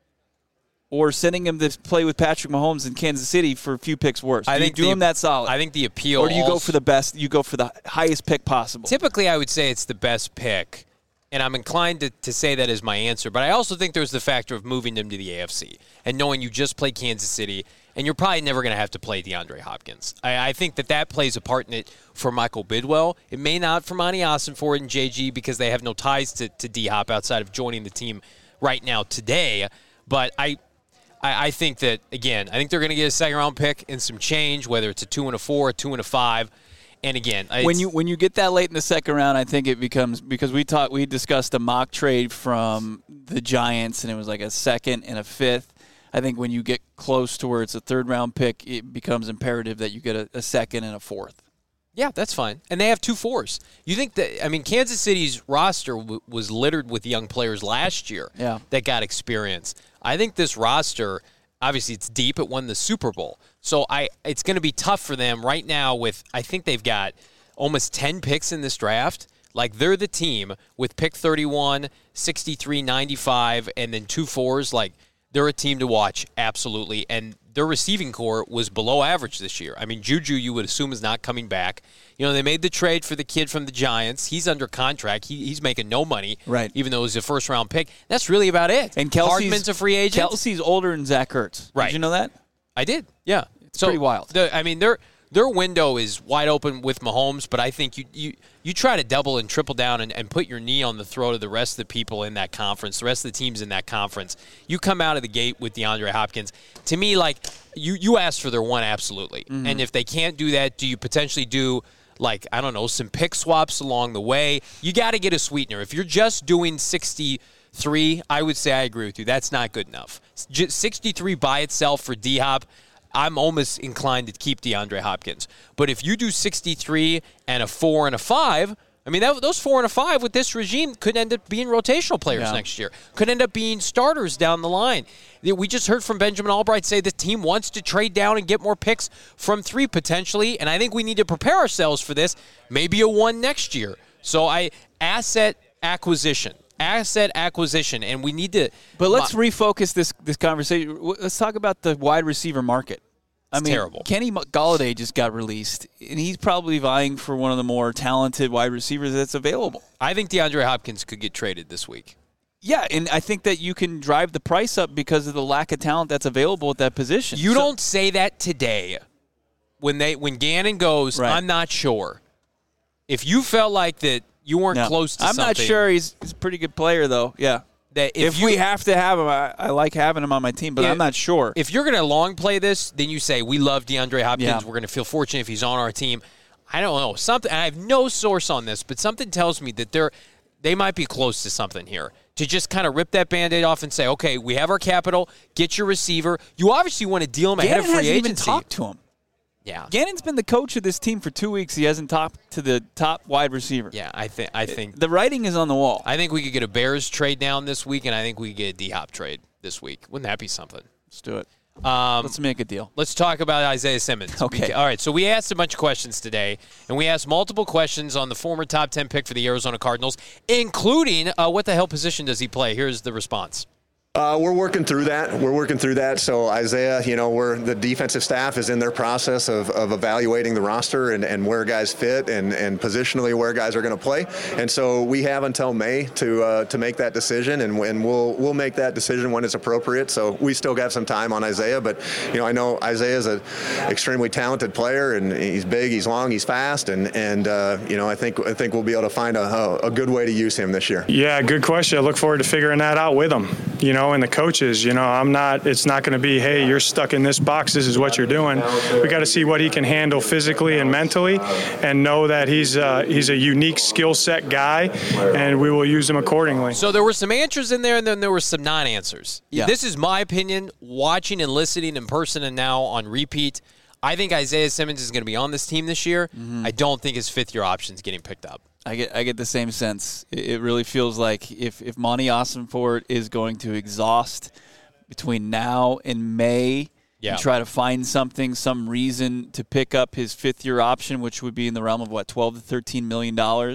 or sending him to play with Patrick Mahomes in Kansas City for a few picks worse? Do you do him that solid? I think the appeal. Or do you go for the best? You go for the highest pick possible? Typically, I would say it's the best pick, and I'm inclined to say that is my answer. But I also think there's the factor of moving them to the AFC and knowing you just played Kansas City, and you're probably never going to have to play DeAndre Hopkins. I think that plays a part in it for Michael Bidwell. It may not for Monty Ossenfort and JG because they have no ties to D-Hop outside of joining the team right now today. But I think that, again, I think they're going to get a second-round pick and some change, whether it's a 2 and a 4, a 2 and a 5. And, again, when you get that late in the second round, I think it becomes – because we discussed a mock trade from the Giants, and it was like a second and a fifth. I think when you get close to where it's a third-round pick, it becomes imperative that you get a second and a fourth. Yeah, that's fine. And they have 2 4s. You think that – I mean, Kansas City's roster was littered with young players last year that got experience. I think this roster, obviously it's deep. It won the Super Bowl. So it's going to be tough for them right now with – I think they've got almost 10 picks in this draft. Like, they're the team with pick 31, 63, 95, and then 2 4s. Like, they're a team to watch, absolutely. And their receiving core was below average this year. I mean, Juju, you would assume, is not coming back. You know, they made the trade for the kid from the Giants. He's under contract. He's making no money, right? Even though it was a first-round pick. That's really about it. And Hardman's a free agent. Kelsey's older than Zach Ertz. Right. Did you know that? I did, yeah. It's pretty wild. Their window is wide open with Mahomes, but I think you try to double and triple down and put your knee on the throat of the rest of the people in that conference, the rest of the teams in that conference. You come out of the gate with DeAndre Hopkins. To me, like, you asked for their one, absolutely. Mm-hmm. And if they can't do that, do you potentially do, like, I don't know, some pick swaps along the way? You got to get a sweetener. If you're just doing 63, I would say I agree with you. That's not good enough. 63 by itself for D-Hop, I'm almost inclined to keep DeAndre Hopkins. But if you do 63 and a 4 and a 5, I mean, those 4 and a 5 with this regime could end up being rotational players next year. Could end up being starters down the line. We just heard from Benjamin Albright say the team wants to trade down and get more picks from 3 potentially, and I think we need to prepare ourselves for this. Maybe a 1 next year. So asset acquisition, and we need to. But let's refocus this conversation. Let's talk about the wide receiver market. It's terrible. Kenny Golladay just got released, and he's probably vying for one of the more talented wide receivers that's available. I think DeAndre Hopkins could get traded this week. Yeah, and I think that you can drive the price up because of the lack of talent that's available at that position. You don't say that today. When Gannon goes, right. I'm not sure. If you felt like that you weren't close to something. I'm not sure. He's a pretty good player, though. Yeah. That if we have to have him, I like having him on my team, but I'm not sure. If you're going to long play this, then you say, we love DeAndre Hopkins. Yeah. We're going to feel fortunate if he's on our team. I don't know. Something. I have no source on this, but something tells me that they might be close to something here. To just kind of rip that Band-Aid off and say, okay, we have our capital. Get your receiver. You obviously want to deal him ahead of free agency. Even talked to him. Yeah, Gannon's been the coach of this team for 2 weeks. He hasn't talked to the top wide receiver. Yeah, I think the writing is on the wall. I think we could get a Bears trade down this week, and I think we could get a D-Hop trade this week. Wouldn't that be something? Let's do it. Let's make a deal. Let's talk about Isaiah Simmons. Okay. All right, so we asked a bunch of questions today, and we asked multiple questions on the former top 10 pick for the Arizona Cardinals, including what the hell position does he play? Here's the response. We're working through that. So Isaiah, the defensive staff is in their process of evaluating the roster and where guys fit and positionally where guys are going to play. And so we have until May to make that decision, and we'll make that decision when it's appropriate. So we still got some time on Isaiah, but I know Isaiah is an extremely talented player, and he's big, he's long, he's fast, and I think we'll be able to find a good way to use him this year. Yeah, good question. I look forward to figuring that out with him. And the coaches, it's not going to be, hey, you're stuck in this box, this is what you're doing. We got to see what he can handle physically and mentally, and know that he's a unique skill set guy, and we will use him accordingly. So there were some answers in there, and then there were some non-answers. Yeah. This is my opinion, watching and listening in person and now on repeat. I think Isaiah Simmons is going to be on this team this year. Mm-hmm. I don't think his fifth-year option is getting picked up. I get the same sense. It really feels like if Monty Ossenfort is going to exhaust between now and May and try to find some reason to pick up his fifth-year option, which would be in the realm of, $12 to $13 million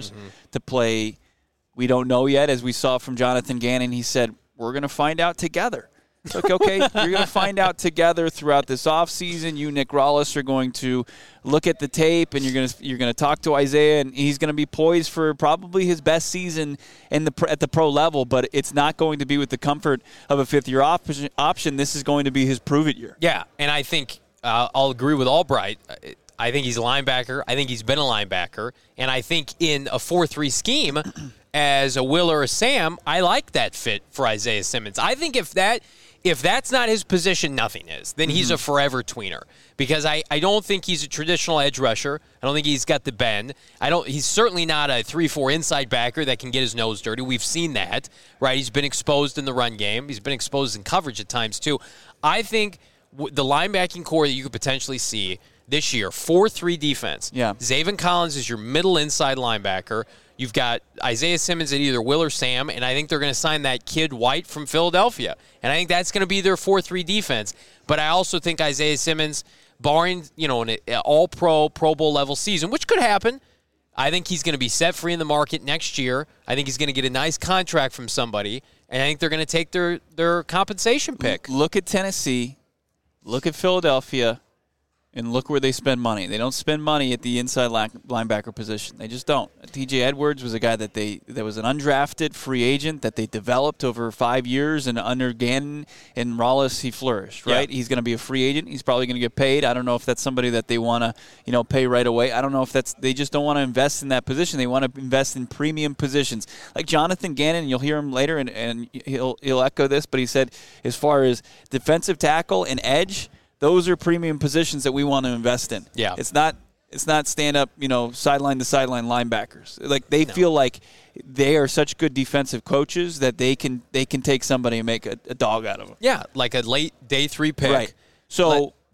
to play. We don't know yet. As we saw from Jonathan Gannon, he said, we're going to find out together. It's like, okay, you're going to find out together throughout this offseason. You, Nick Rawlis, are going to look at the tape, and you're going to talk to Isaiah, and he's going to be poised for probably his best season at the pro level, but it's not going to be with the comfort of a fifth-year option. This is going to be his prove-it year. Yeah, and I think I'll agree with Albright. I think he's a linebacker. I think he's been a linebacker. And I think in a 4-3 scheme, as a Will or a Sam, I like that fit for Isaiah Simmons. I think if that's not his position, nothing is. Then he's a forever tweener, because I don't think he's a traditional edge rusher. I don't think he's got the bend. He's certainly not a 3-4 inside backer that can get his nose dirty. We've seen that, right? He's been exposed in the run game. He's been exposed in coverage at times too. I think the linebacking core that you could potentially see this year, 4-3 defense. Yeah. Zaven Collins is your middle inside linebacker. You've got Isaiah Simmons at either Will or Sam, and I think they're going to sign that kid White from Philadelphia. And I think that's going to be their 4-3 defense. But I also think Isaiah Simmons, barring an all-pro, Pro Bowl level season, which could happen, I think he's going to be set free in the market next year. I think he's going to get a nice contract from somebody, and I think they're going to take their compensation pick. Look at Tennessee. Look at Philadelphia. And look where they spend money. They don't spend money at the inside linebacker position. They just don't. T.J. Edwards was a guy that was an undrafted free agent that they developed over 5 years, and under Gannon and Rawlis, he flourished, right? Yeah. He's going to be a free agent. He's probably going to get paid. I don't know if that's somebody that they want to, pay right away. I don't know if they just don't want to invest in that position. They want to invest in premium positions. Like Jonathan Gannon, you'll hear him later, and he'll echo this, but he said as far as defensive tackle and edge, those are premium positions that we want to invest in. Yeah. It's not stand up, sideline to sideline linebackers. Like they feel like they are such good defensive coaches that they can take somebody and make a dog out of them. Yeah, like a late day 3 pick. Right. So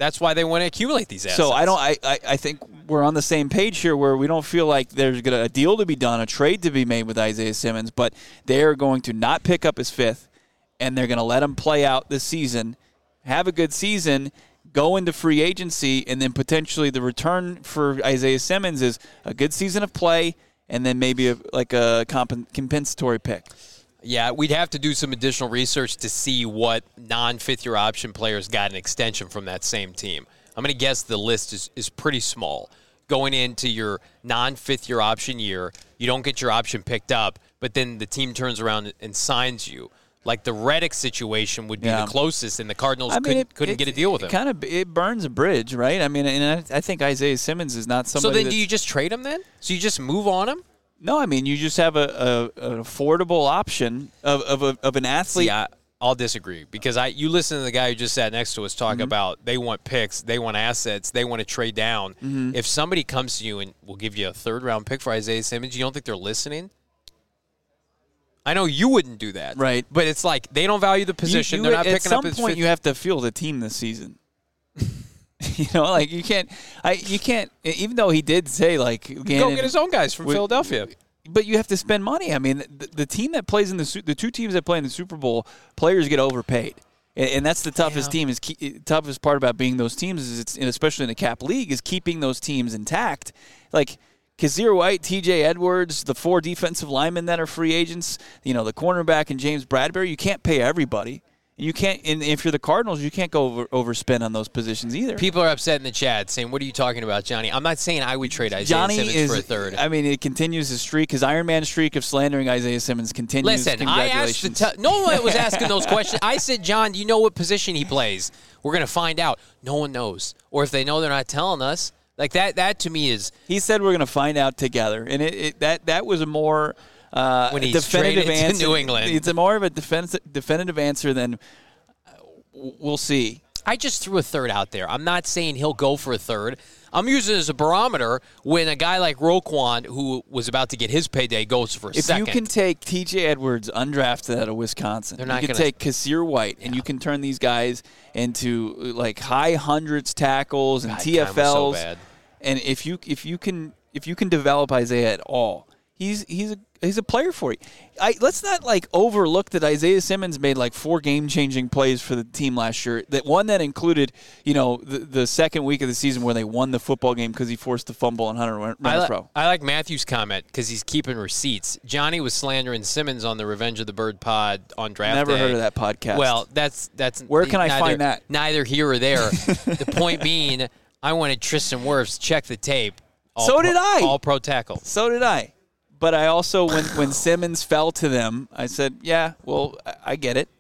That's why they want to accumulate these assets. So I think we're on the same page here where we don't feel like there's a deal to be done, a trade to be made with Isaiah Simmons, but they're going to not pick up his fifth, and they're going to let him play out this season, have a good season, go into free agency, and then potentially the return for Isaiah Simmons is a good season of play and then maybe a compensatory pick. Yeah, we'd have to do some additional research to see what non-fifth-year option players got an extension from that same team. I'm going to guess the list is pretty small. Going into your non-fifth-year option year, you don't get your option picked up, but then the team turns around and signs you. Like the Reddick situation would be the closest, and the Cardinals couldn't get a deal with him. It burns a bridge, right? I mean, and I think Isaiah Simmons is not somebody. So then, do you just trade him then? So you just move on him? No, I mean you just have an affordable option of an athlete. See, I'll disagree because you listen to the guy who just sat next to us talk about they want picks, they want assets, they want to trade down. Mm-hmm. If somebody comes to you and will give you a third-round pick for Isaiah Simmons, you don't think they're listening? I know you wouldn't do that, right? But it's like they don't value the position. They're not picking up his. At some point, you have to field a team this season. Like you can't. Even though he did say like Gannon, go get his own guys from Philadelphia. But you have to spend money. I mean, the team that plays in the two teams that play in the Super Bowl, players get overpaid, and that's the toughest toughest part about being those teams is especially in a cap league is keeping those teams intact. Like Kazir White, T.J. Edwards, the 4 defensive linemen that are free agents, the cornerback and James Bradbury, you can't pay everybody. You can't, and if you're the Cardinals, you can't go overspend on those positions either. People are upset in the chat saying, "What are you talking about, Johnny?" I'm not saying I would trade Isaiah Simmons for a third. I mean, it continues his streak. His Iron Man streak of slandering Isaiah Simmons continues. Listen, I asked no one was asking those questions. I said, "John, do you know what position he plays?" We're going to find out. No one knows, or if they know, they're not telling us. Like that to me is. He said we're going to find out together, and that was a more when he's definitive answer. To New England. It's a more of a definitive answer than we'll see. I just threw a third out there. I'm not saying he'll go for a third. I'm using it as a barometer when a guy like Roquan, who was about to get his payday, goes for a second. If you can take T.J. Edwards undrafted out of Wisconsin, you can take Kazir White, and you can turn these guys into like high hundreds tackles and TFLs. So and if you can develop Isaiah at all, he's a player for you. Let's not overlook that Isaiah Simmons made 4 game-changing plays for the team last year. That one that included, the second week of the season where they won the football game because he forced the fumble on Hunter Renfrow. I like Matthew's comment because he's keeping receipts. Johnny was slandering Simmons on the Revenge of the Bird pod on draft Never day. heard of that podcast. Well, that's where can I find that? Neither here or there. The point being, I wanted Tristan Wirfs check the tape. Did I. All pro tackle. So did I. But I also, when Simmons fell to them, I said, yeah, well, I get it.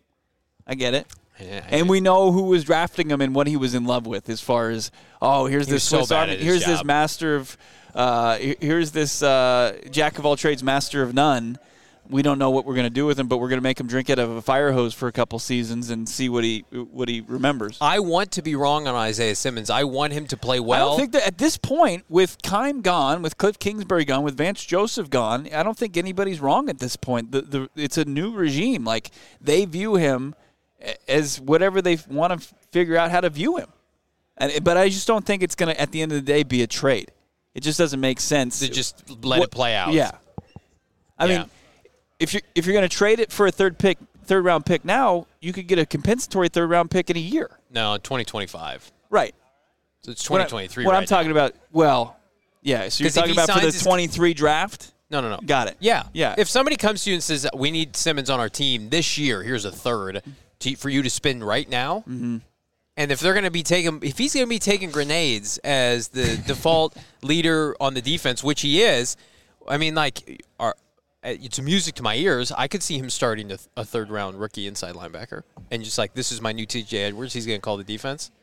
And we know who was drafting him and what he was in love with as far as, here's this master of, here's this jack of all trades, master of none. We don't know what we're going to do with him, but we're going to make him drink out of a fire hose for a couple seasons and see what he remembers. I want to be wrong on Isaiah Simmons. I want him to play well. I don't think that at this point, with Keim gone, with Cliff Kingsbury gone, with Vance Joseph gone, I don't think anybody's wrong at this point. It's a new regime. They view him as whatever they want to figure out how to view him. But I just don't think it's going to, at the end of the day, be a trade. It just doesn't make sense. To just let it play out. Yeah. I mean, if you're going to trade it for a third round pick now, you could get a compensatory third round pick in a year. No, 2025. Right. So it's 2023. What I'm talking about, so you're talking about for the 23 draft? No. Got it. Yeah. Yeah. If somebody comes to you and says, we need Simmons on our team this year, here's a third for you to spend right now. Mm-hmm. And if he's going to be taking grenades as the default leader on the defense, which he is, I mean, it's music to my ears. I could see him starting a third-round rookie inside linebacker, and just this is my new T.J. Edwards. He's going to call the defense.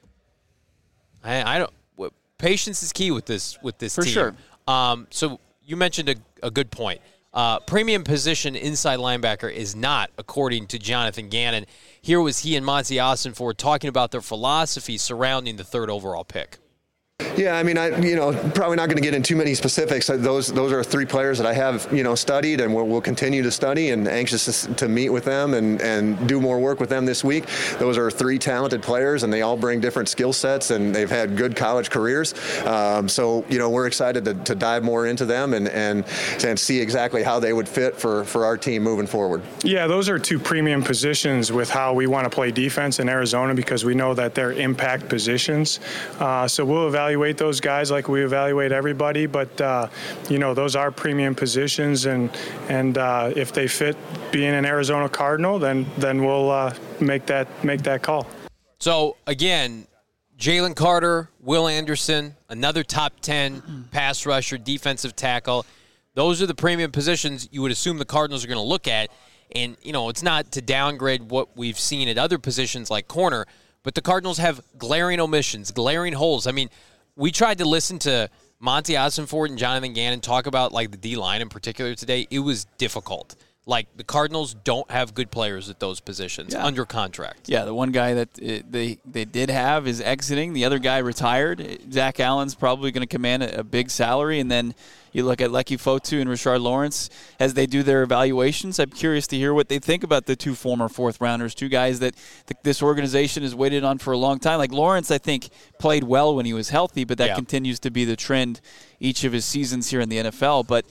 I don't. Patience is key with this team. For sure. So you mentioned a good point. Premium position inside linebacker is not, according to Jonathan Gannon. Here was he and Monty Ossenford talking about their philosophy surrounding the third overall pick. Yeah, I mean, probably not going to get into too many specifics. Those are 3 players that I have, studied and we'll continue to study, and anxious to meet with them and do more work with them this week. Those are 3 talented players, and they all bring different skill sets, and they've had good college careers. So we're excited to dive more into them and see exactly how they would fit for our team moving forward. Yeah, those are 2 premium positions with how we want to play defense in Arizona, because we know that they're impact positions. So we'll evaluate those guys like we evaluate everybody, but those are premium positions, and if they fit being an Arizona Cardinal, then we'll make that call. So again, Jalen Carter, Will Anderson, another top 10 pass rusher, defensive tackle. Those are the premium positions you would assume the Cardinals are going to look at. And, it's not to downgrade what we've seen at other positions like corner, but the Cardinals have glaring omissions, glaring holes. I mean, we tried to listen to Monty Ossenfort and Jonathan Gannon talk about, like, the D-line in particular today. It was difficult. Like, the Cardinals don't have good players at those positions under contract. Yeah, the one guy that they did have is exiting. The other guy retired. Zach Allen's probably going to command a big salary. And then you look at Lecky Fotu and Rashard Lawrence as they do their evaluations. I'm curious to hear what they think about the 2 former fourth-rounders, 2 guys that this organization has waited on for a long time. Like Lawrence, I think, played well when he was healthy, but that continues to be the trend each of his seasons here in the NFL. But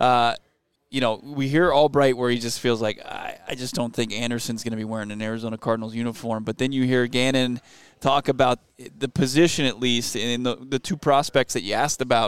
we hear Albright where he just feels like, I just don't think Anderson's going to be wearing an Arizona Cardinals uniform. But then you hear Gannon talk about the position, at least, and the 2 prospects that you asked about.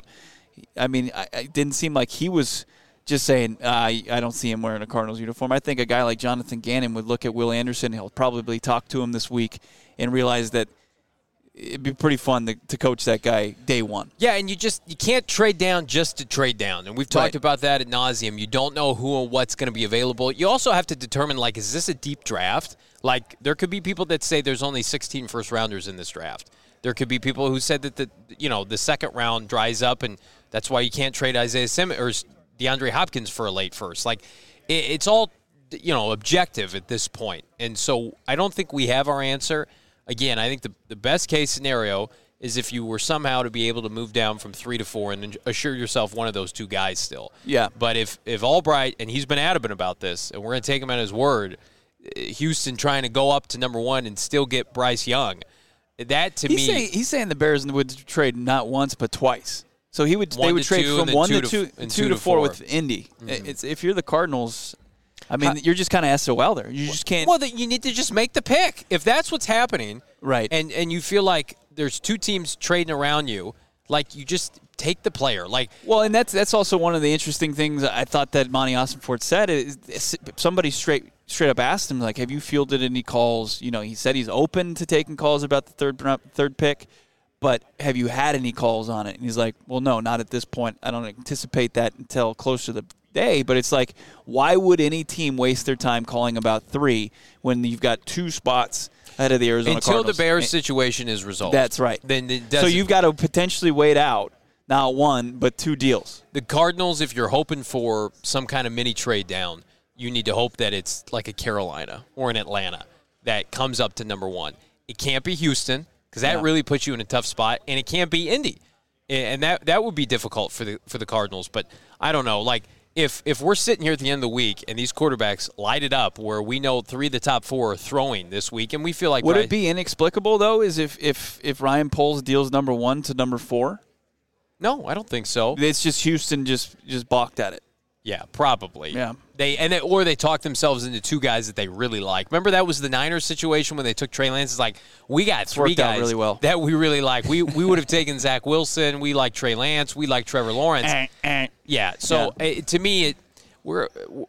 I mean, it didn't seem like he was just saying, I don't see him wearing a Cardinals uniform. I think a guy like Jonathan Gannon would look at Will Anderson. He'll probably talk to him this week and realize that it'd be pretty fun to coach that guy day one. Yeah, and you can't trade down just to trade down. And we've talked about that ad nauseum. You don't know who or what's going to be available. You also have to determine, like, is this a deep draft? Like, there could be people that say there's only 16 first-rounders in this draft. There could be people who said that the second round dries up, and that's why you can't trade Isaiah Simmons or DeAndre Hopkins for a late first. Like, it's all, objective at this point. And so I don't think we have our answer. Again, I think the best case scenario is if you were somehow to be able to move down from 3 to 4 and assure yourself one of those 2 guys still. Yeah. But if Albright, and he's been adamant about this, and we're going to take him at his word, Houston trying to go up to number 1 and still get Bryce Young, that to me... He's saying the Bears would trade not once but twice. So they would trade from 1 to 2 and 2 to 4 with Indy. Mm-hmm. If you're the Cardinals... I mean, you're just kind of SOL there. You just can't. Well, you need to just make the pick. If that's what's happening, right? And you feel like there's 2 teams trading around you, like, you just take the player. Like, well, and that's also one of the interesting things I thought that Monty Ossenfort said is somebody straight up asked him, like, have you fielded any calls? He said he's open to taking calls about the third pick, but have you had any calls on it? And he's like, well, no, not at this point. I don't anticipate that until close to the day. But it's like, why would any team waste their time calling about 3 when you've got 2 spots ahead of the Arizona Cardinals? Until the Bears situation is resolved. That's right. So you've got to potentially wait out not 1 but 2 deals. The Cardinals, if you're hoping for some kind of mini trade down, you need to hope that it's like a Carolina or an Atlanta that comes up to number 1. It can't be Houston, because that really puts you in a tough spot, and it can't be Indy, and that would be difficult for the Cardinals. But I don't know, like, if we're sitting here at the end of the week and these quarterbacks light it up, where we know 3 of the top 4 are throwing this week, and we feel like would it be inexplicable though? Is if Ryan Poles deals number 1 to number 4? No, I don't think so. It's just Houston just balked at it. Yeah, probably. Yeah. Or they talked themselves into 2 guys that they really like. Remember that was the Niners situation when they took Trey Lance? It's like, we got 3 guys really well. that we really like. We would have taken Zach Wilson. We like Trey Lance. We like Trevor Lawrence. Yeah. So to me, we're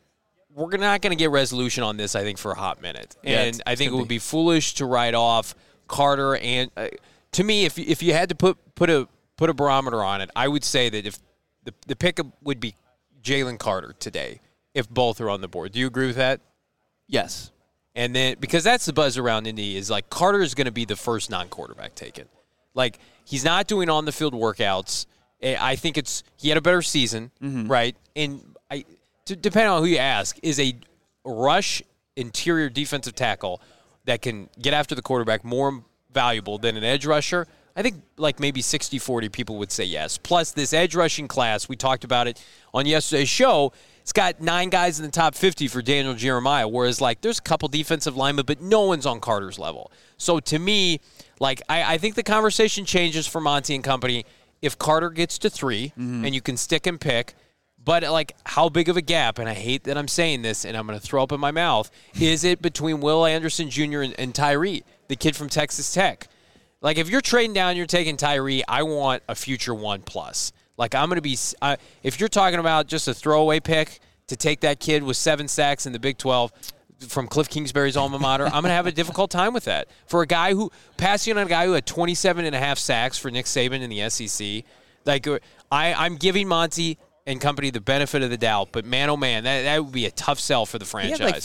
not going to get resolution on this, I think, for a hot minute. And I think it would be foolish to write off Carter. And to me, if you had to put a barometer on it, I would say that if the pick would be Jalen Carter today, if both are on the board. Do you agree with that? Yes. And then, because that's the buzz around Indy, is like Carter is going to be the first non-quarterback taken. Like, he's not doing on-the-field workouts. I think he had a better season, right? And depending on who you ask, is a rush interior defensive tackle that can get after the quarterback more valuable than an edge rusher? I think like maybe 60-40 people would say yes. Plus, this edge rushing class, we talked about it on yesterday's show, it's got 9 guys in the top 50 for Daniel Jeremiah, whereas like there's a couple defensive linemen, but no one's on Carter's level. So to me, like I think the conversation changes for Monty and company if Carter gets to 3 and you can stick and pick. But, like, how big of a gap, and I hate that I'm saying this and I'm going to throw up in my mouth, is it between Will Anderson Jr. and Tyree, the kid from Texas Tech? Like, if you're trading down, you're taking Tyree, I want a future 1+. Like, I'm going to be if you're talking about just a throwaway pick to take that kid with 7 sacks in the Big 12 from Cliff Kingsbury's alma mater, I'm going to have a difficult time with that. For a guy who, passing on a guy who had 27.5 sacks for Nick Saban in the SEC, like, I'm giving Monty and company the benefit of the doubt, but man, oh man, that would be a tough sell for the franchise. He had like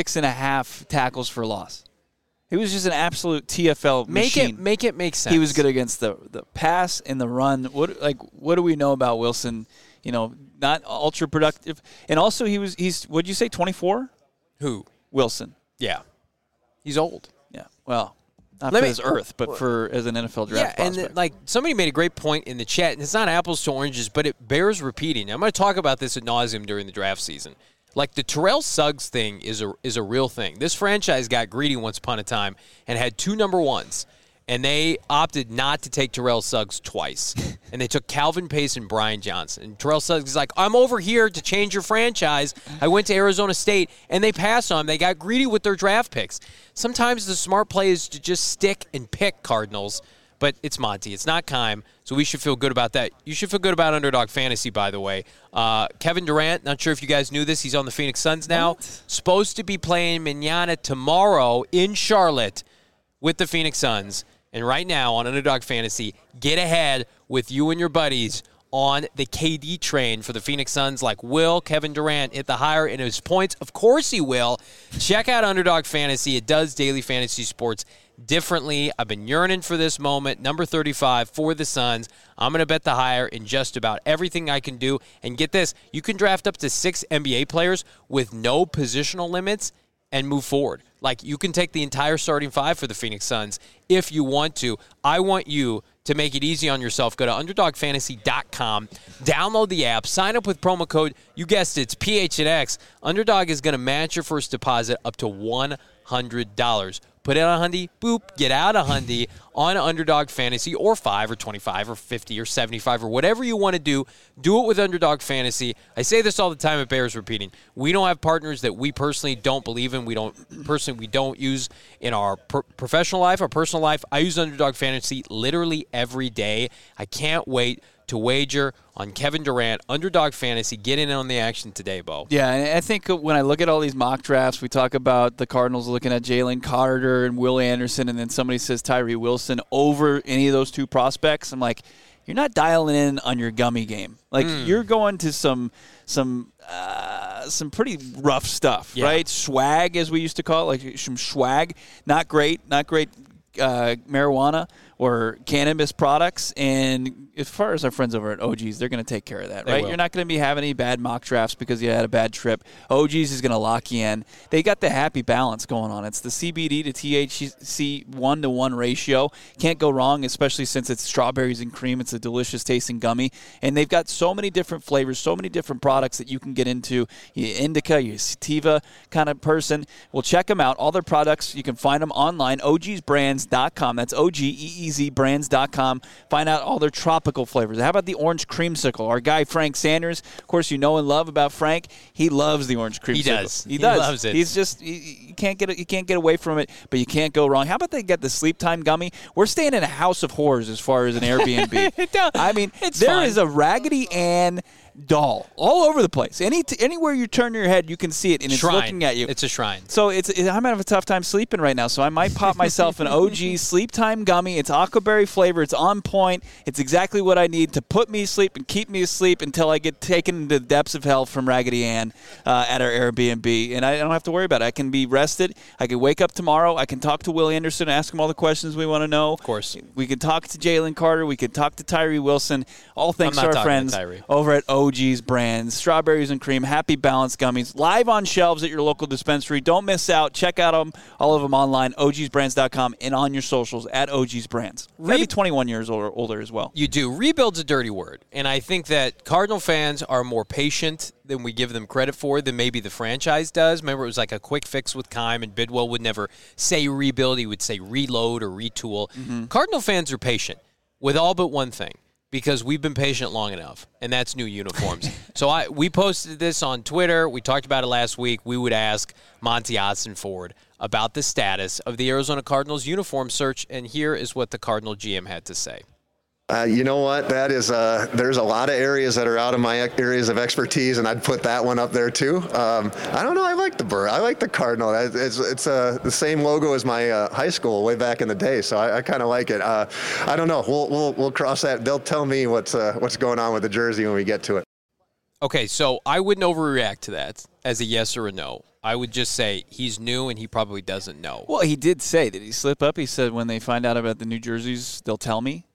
56.5 tackles for loss. He was just an absolute TFL machine. Make it make sense. He was good against the pass and the run. What do we know about Wilson? You know, not ultra productive, and also he's what'd you say, 24? Who? Wilson. Yeah, he's old. Yeah, well. Not for his earth, but as an NFL draft prospect. And like somebody made a great point in the chat, and it's not apples to oranges, but it bears repeating. I'm going to talk about this ad nauseum during the draft season. Like the Terrell Suggs thing is a real thing. This franchise got greedy once upon a time and had 2 number 1s, and they opted not to take Terrell Suggs twice. And they took Calvin Pace and Brian Johnson. And Terrell Suggs is like, I'm over here to change your franchise. I went to Arizona State, and they passed on him. They got greedy with their draft picks. Sometimes the smart play is to just stick and pick Cardinals, but it's Monty. It's not Keim, so we should feel good about that. You should feel good about Underdog Fantasy, by the way. Kevin Durant, not sure if you guys knew this. He's on the Phoenix Suns now. What? Supposed to be playing Manana tomorrow in Charlotte with the Phoenix Suns. And right now on Underdog Fantasy, get ahead with you and your buddies on the KD train for the Phoenix Suns. Like, will Kevin Durant hit the higher in his points? Of course he will. Check out Underdog Fantasy. It does daily fantasy sports differently. I've been yearning for this moment. Number 35 for the Suns. I'm going to bet the higher in just about everything I can do. And get this, you can draft up to 6 NBA players with no positional limits and move forward. Like, you can take the entire starting 5 for the Phoenix Suns if you want to. I want you to make it easy on yourself. Go to UnderdogFantasy.com, download the app, sign up with promo code, you guessed it, it's PHNX. Underdog is going to match your first deposit up to $100. Put it on Hundy, boop, get out of Hundy on Underdog Fantasy, or 5 or 25 or 50 or 75 or whatever you want to do. Do it with Underdog Fantasy. I say this all the time, it bears repeating. We don't have partners that we personally don't believe in. We don't use in our professional life, our personal life. I use Underdog Fantasy literally every day. I can't wait to wager on Kevin Durant, Underdog Fantasy. Get in on the action today, Bo. Yeah, and I think when I look at all these mock drafts, we talk about the Cardinals looking at Jalen Carter and Will Anderson, and then somebody says Tyree Wilson over any of those 2 prospects. I'm like, you're not dialing in on your gummy game. Like, you're going to some pretty rough stuff, right? Swag, as we used to call it, like some swag. Not great marijuana or cannabis products. And as far as our friends over at OG's, they're going to take care of that, right? You're not going to be having any bad mock drafts because you had a bad trip. OG's is going to lock you in. They got the happy balance going on. It's the CBD to THC 1-to-1 ratio. Can't go wrong, especially since it's strawberries and cream. It's a delicious tasting gummy. And they've got so many different flavors, so many different products that you can get into. You're indica, you're sativa kind of person. Well, check them out. All their products, you can find them online, ogsbrands.com. That's OGEEZbrands.com. Find out all their tropical flavors. How about the orange creamsicle? Our guy Frank Sanders, of course, you know and love about Frank. He loves the orange creamsicle. He loves it. He's just you can't get away from it, but you can't go wrong. How about they get the Sleep Time gummy? We're staying in a house of horrors as far as an Airbnb. I mean, there is a Raggedy Ann doll all over the place. Anywhere you turn your head, you can see it, and it's looking at you. It's a shrine. So I'm having a tough time sleeping right now, so I might pop myself an OG Sleep Time gummy. It's aquaberry flavor. It's on point. It's exactly what I need to put me to sleep and keep me asleep until I get taken into the depths of hell from Raggedy Ann at our Airbnb, and I don't have to worry about it. I can be rested. I can wake up tomorrow. I can talk to Will Anderson, ask him all the questions we want to know. Of course. We can talk to Jalen Carter. We can talk to Tyree Wilson. All thanks to our friends over at OG OG's brands, strawberries and cream, Happy Balance gummies, live on shelves at your local dispensary. Don't miss out. Check out all of them online, ogsbrands.com, and on your socials at OG's Brands. Maybe 21 years older as well. You do. Rebuild's a dirty word, and I think that Cardinal fans are more patient than we give them credit for than maybe the franchise does. Remember, it was like a quick fix with Keim, and Bidwell would never say rebuild. He would say reload or retool. Mm-hmm. Cardinal fans are patient with all but one thing, because we've been patient long enough, and that's new uniforms. So we posted this on Twitter. We talked about it last week. We would ask Monty Ossenford about the status of the Arizona Cardinals uniform search, and here is what the Cardinal GM had to say. You know what? That is, there's a lot of areas that are out of my areas of expertise, and I'd put that one up there too. I don't know. I like the bird. I like the Cardinal. It's the same logo as my high school way back in the day, so I kind of like it. I don't know. We'll cross that. They'll tell me what's going on with the jersey when we get to it. Okay, so I wouldn't overreact to that as a yes or a no. I would just say he's new and he probably doesn't know. Well, he did say, did he slip up? He said when they find out about the new jerseys, they'll tell me.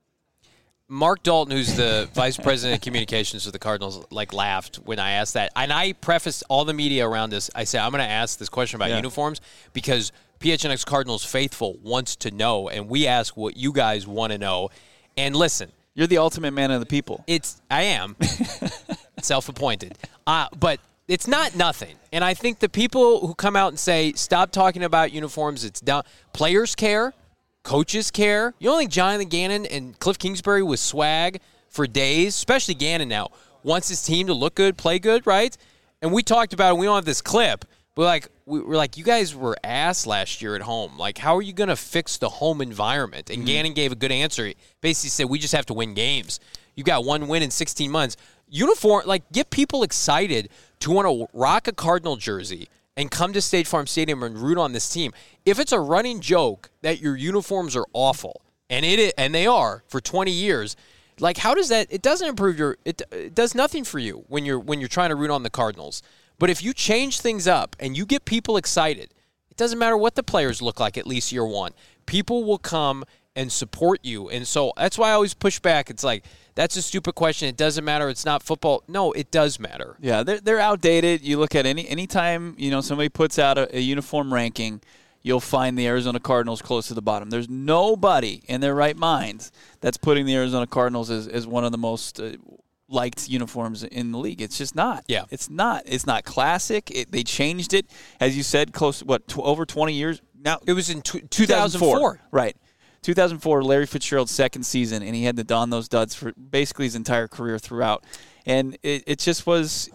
Mark Dalton, who's the vice president of communications for the Cardinals, laughed when I asked that. And I prefaced all the media around this. I said, I'm going to ask this question about uniforms because PHNX Cardinals Faithful wants to know, and we ask what you guys want to know. And listen. You're the ultimate man of the people. I am. Self-appointed. But it's not nothing. And I think the people who come out and say, stop talking about uniforms, it's done. Players care. Coaches care. You don't think Jonathan Gannon and Cliff Kingsbury with swag for days, especially Gannon now, wants his team to look good, play good, right? And we talked about it. We don't have this clip. But we're like, you guys were ass last year at home. How are you going to fix the home environment? And Gannon gave a good answer. He basically said, we just have to win games. You got one win in 16 months. Uniform, get people excited to want to rock a Cardinal jersey and come to State Farm Stadium and root on this team. If it's a running joke that your uniforms are awful, and they are for 20 years, how does that? It doesn't improve it does nothing for you when you're trying to root on the Cardinals. But if you change things up and you get people excited, it doesn't matter what the players look like at least year one. People will come and support you. And so that's why I always push back. It's that's a stupid question. It doesn't matter. It's not football. No, it does matter. Yeah, they're outdated. You look at any time somebody puts out a uniform ranking, you'll find the Arizona Cardinals close to the bottom. There's nobody in their right minds that's putting the Arizona Cardinals as one of the most liked uniforms in the league. It's just not. Yeah. It's not. It's not classic. They changed it, as you said, close over 20 years now. It was in 2004. Right. 2004, Larry Fitzgerald's second season, and he had to don those duds for basically his entire career throughout. And it just was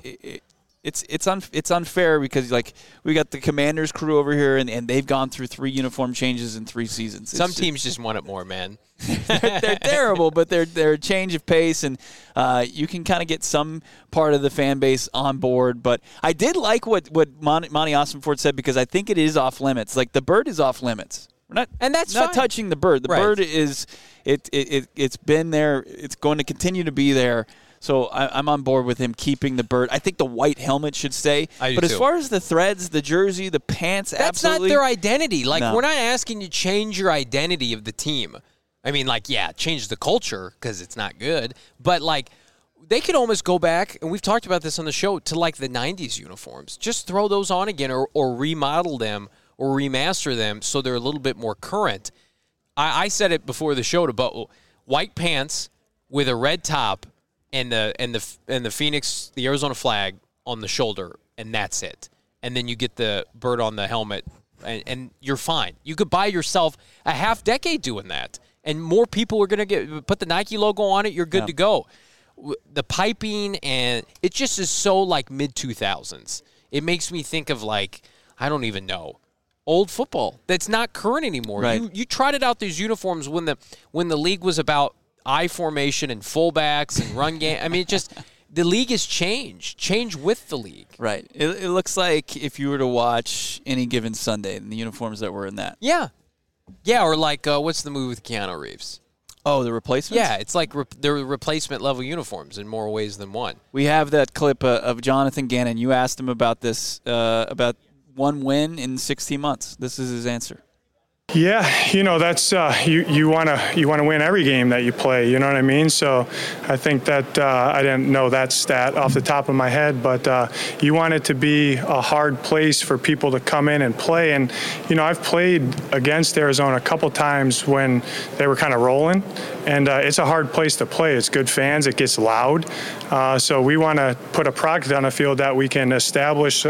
it's unfair because we got the Commanders crew over here, and they've gone through 3 uniform changes in 3 seasons. Some teams just want it more, man. they're terrible, but they're a change of pace, and you can kind of get some part of the fan base on board. But I did like what Monty Ossenford said, because I think it is off limits. The bird is off limits. And that's not fine. Touching the bird. The bird is it's been there. It's going to continue to be there. So I'm on board with him keeping the bird. I think the white helmet should stay. But as far as the threads, the jersey, the pants, that's absolutely. Not their identity. No. We're not asking you to change your identity of the team. I mean, change the culture because it's not good. But they could almost go back, and we've talked about this on the show, to the 90s uniforms. Just throw those on again, or remodel them, or remaster them so they're a little bit more current. I said it before the show to white pants with a red top and the Phoenix, the Arizona flag on the shoulder, and that's it. And then you get the bird on the helmet, and you're fine. You could buy yourself a half decade doing that, and more people are going to put the Nike logo on it. You're good to go. The piping, and it just is so mid-2000s. It makes me think of I don't even know. Old football that's not current anymore. Right. You trotted out these uniforms when the league was about I formation and fullbacks and run game. I mean, the league has changed with the league. Right. It looks like if you were to watch Any Given Sunday and the uniforms that were in that. Yeah, or what's the movie with Keanu Reeves? Oh, the replacements? Yeah, it's they're replacement level uniforms in more ways than one. We have that clip of Jonathan Gannon. You asked him about this about one win in 16 months. This is his answer. Yeah, that's you want to win every game that you play. You know what I mean? So I think that I didn't know that stat off the top of my head, but you want it to be a hard place for people to come in and play. And I've played against Arizona a couple times when they were kind of rolling, and it's a hard place to play. It's good fans. It gets loud. So we want to put a product on the field that we can establish.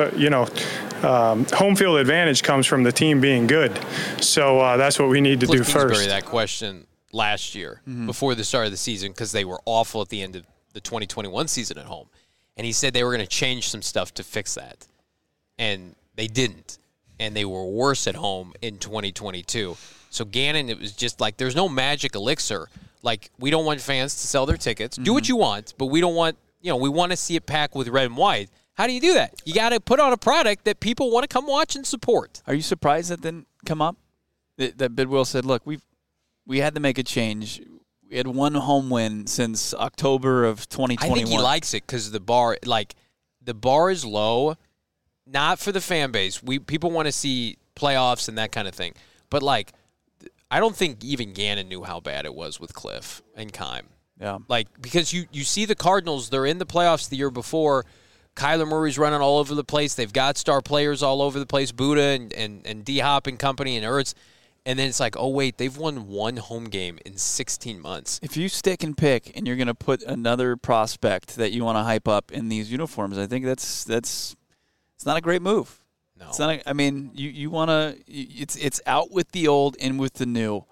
Home field advantage comes from the team being good. So that's what we need to do first. That question last year before the start of the season because they were awful at the end of the 2021 season at home. And he said they were going to change some stuff to fix that. And they didn't. And they were worse at home in 2022. So Gannon, it was just like there's no magic elixir. Like we don't want fans to sell their tickets. Do what you want, but we don't want, we want to see it packed with red and white. How do you do that? You got to put on a product that people want to come watch and support. Are you surprised that didn't come up? That Bidwill said, look, we had to make a change. We had one home win since October of 2021. I think he likes it because the bar is low, not for the fan base. People want to see playoffs and that kind of thing. But, I don't think even Gannon knew how bad it was with Cliff and Keim. Yeah. Because you see the Cardinals, they're in the playoffs the year before. Kyler Murray's running all over the place. They've got star players all over the place, Buddha and D-Hop and company and Ertz. And then it's like, oh, wait, they've won one home game in 16 months. If you stick and pick and you're going to put another prospect that you want to hype up in these uniforms, I think it's not a great move. No. It's not. You want to – it's out with the old, in with the new.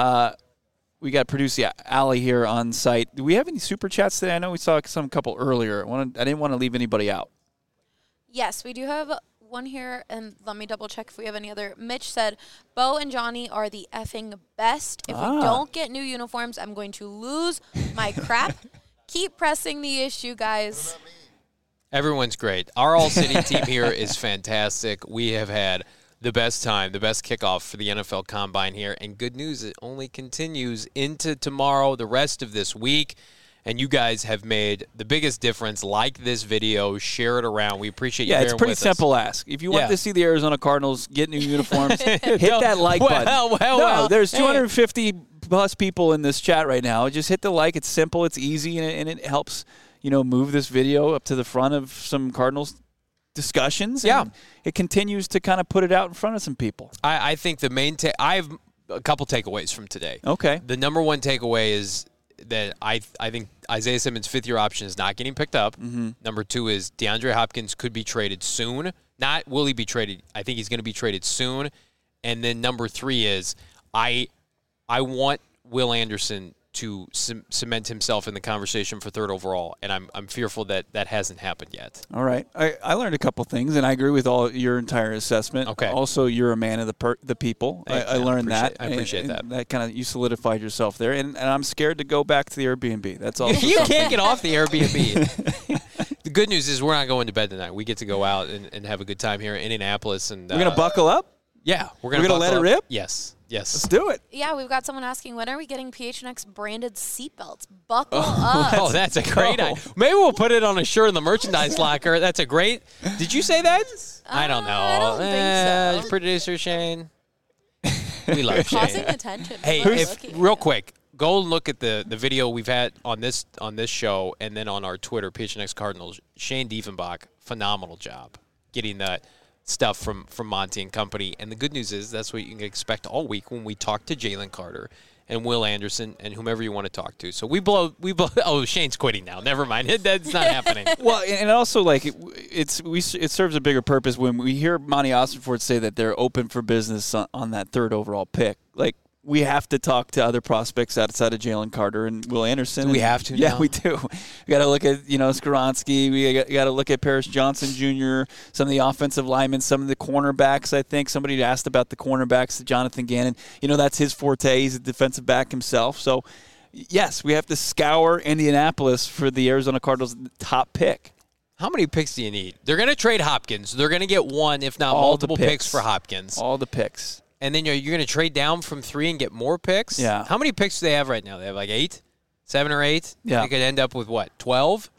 We got producer Allie here on site. Do we have any super chats today? I know we saw a couple earlier. I didn't want to leave anybody out. Yes, we do have one here, and let me double check if we have any other. Mitch said, Bo and Johnny are the effing best. If we don't get new uniforms, I'm going to lose my crap. Keep pressing the issue, guys. Everyone's great. Our All-City team here is fantastic. We have had the best time, the best kickoff for the NFL Combine here. And good news, it only continues into tomorrow, the rest of this week. And you guys have made the biggest difference. Like this video, share it around. We appreciate you bearing with us. Yeah, it's pretty simple ask. If you want to see the Arizona Cardinals get new uniforms, hit that like button. Well, there's 250-plus people in this chat right now. Just hit the like. It's simple. It's easy, and it helps, move this video up to the front of some Cardinals discussions. Yeah. And it continues to kind of put it out in front of some people. I think the main I have a couple takeaways from today. Okay. The number one takeaway is that I think Isaiah Simmons' fifth-year option is not getting picked up. Mm-hmm. Number two is DeAndre Hopkins could be traded soon. Not will he be traded. I think he's going to be traded soon. And then number three is I want Will Anderson to cement himself in the conversation for third overall, and I'm fearful that hasn't happened yet. All right. I learned a couple things, and I agree with your entire assessment. Okay. Also, you're a man of the people. I learned that. I appreciate that. That kind of, you solidified yourself there, and I'm scared to go back to the Airbnb. That's all. You can't get off the Airbnb. The good news is we're not going to bed tonight. We get to go out and have a good time here in Indianapolis. And we're going to buckle up? Yeah. We're going to let it rip? Yes. Let's do it. Yeah, we've got someone asking, when are we getting PHNX branded seatbelts? Buckle up. Oh, that's a great idea. Maybe we'll put it on a shirt in the merchandise locker. That's a great. Did you say that? I don't know. I don't think so. Producer Shane. We love Shane. Causing attention. Hey, real quick, go look at the video we've had on this show and then on our Twitter, PHNX Cardinals. Shane Diefenbach, phenomenal job getting that stuff from Monty and company. And the good news is that's what you can expect all week when we talk to Jalen Carter and Will Anderson and whomever you want to talk to. So we blow. Oh, Shane's quitting now. Never mind. That's not happening. Well, and also it serves a bigger purpose when we hear Monty Ossenfort say that they're open for business on that third overall pick. We have to talk to other prospects outside of Jalen Carter and Will Anderson. Do we have to? Yeah, now? we do. We got to look at Skoronski. We got to look at Paris Johnson Jr. Some of the offensive linemen, some of the cornerbacks. I think somebody asked about the cornerbacks. Jonathan Gannon. That's his forte. He's a defensive back himself. So, yes, we have to scour Indianapolis for the Arizona Cardinals' top pick. How many picks do you need? They're going to trade Hopkins. They're going to get one, if not multiple picks for Hopkins. All the picks. And then you're going to trade down from 3 and get more picks? Yeah. How many picks do they have right now? They have 8? 7 or 8? Yeah. They could end up with, 12?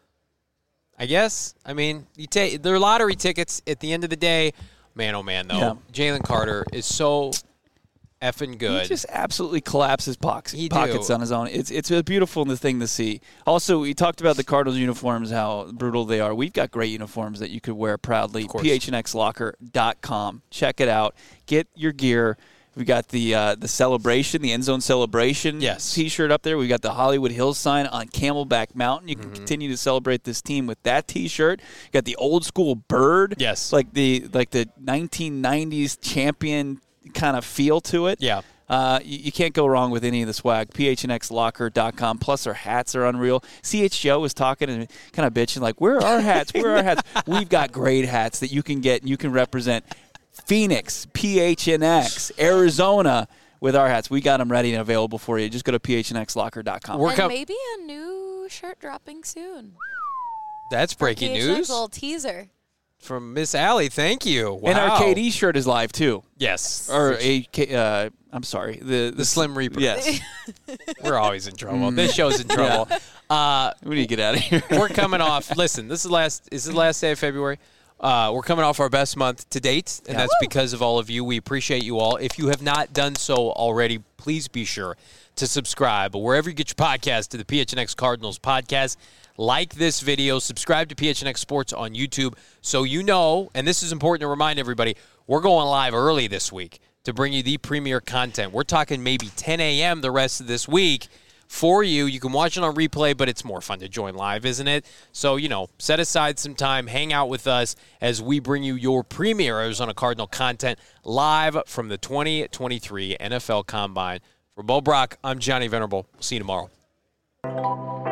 I guess. I mean, they're lottery tickets at the end of the day. Man, oh, man, though. Yeah. Jalen Carter is so effing good. He just absolutely collapses pockets on his own. It's a beautiful thing to see. Also, we talked about the Cardinals uniforms, how brutal they are. We've got great uniforms that you could wear proudly. PHNXlocker.com. Check it out. Get your gear. We got the celebration, the end zone celebration T-shirt up there. We got the Hollywood Hills sign on Camelback Mountain. You can continue to celebrate this team with that T-shirt. You got the old school bird, like the 1990s champion kind of feel to it. Yeah. You can't go wrong with any of the swag. PHNXlocker.com. Plus, our hats are unreal. CH Joe was talking and kind of bitching, like, where are our hats? Where are our hats? We've got great hats that you can get and you can represent Phoenix, PHNX, Arizona with our hats. We got them ready and available for you. Just go to PHNXlocker.com. And maybe a new shirt dropping soon. That's breaking news. A little teaser. From Miss Allie, thank you. Wow. And our KD shirt is live, too. Yes. Or I'm sorry. The Slim Reaper. Yes. We're always in trouble. This show's in trouble. We need to get out of here. We're coming off. Listen, this is the last day of February. We're coming off our best month to date, and that's because of all of you. We appreciate you all. If you have not done so already, please be sure to subscribe wherever you get your podcast to the PHNX Cardinals podcast. Like this video, subscribe to PHNX Sports on YouTube so you know, and this is important to remind everybody, we're going live early this week to bring you the premier content. We're talking maybe 10 a.m. the rest of this week for you. You can watch it on replay, but it's more fun to join live, isn't it? So, set aside some time, hang out with us as we bring you your premier Arizona Cardinal content live from the 2023 NFL Combine. For Bo Brock, I'm Johnny Venerable. We'll see you tomorrow.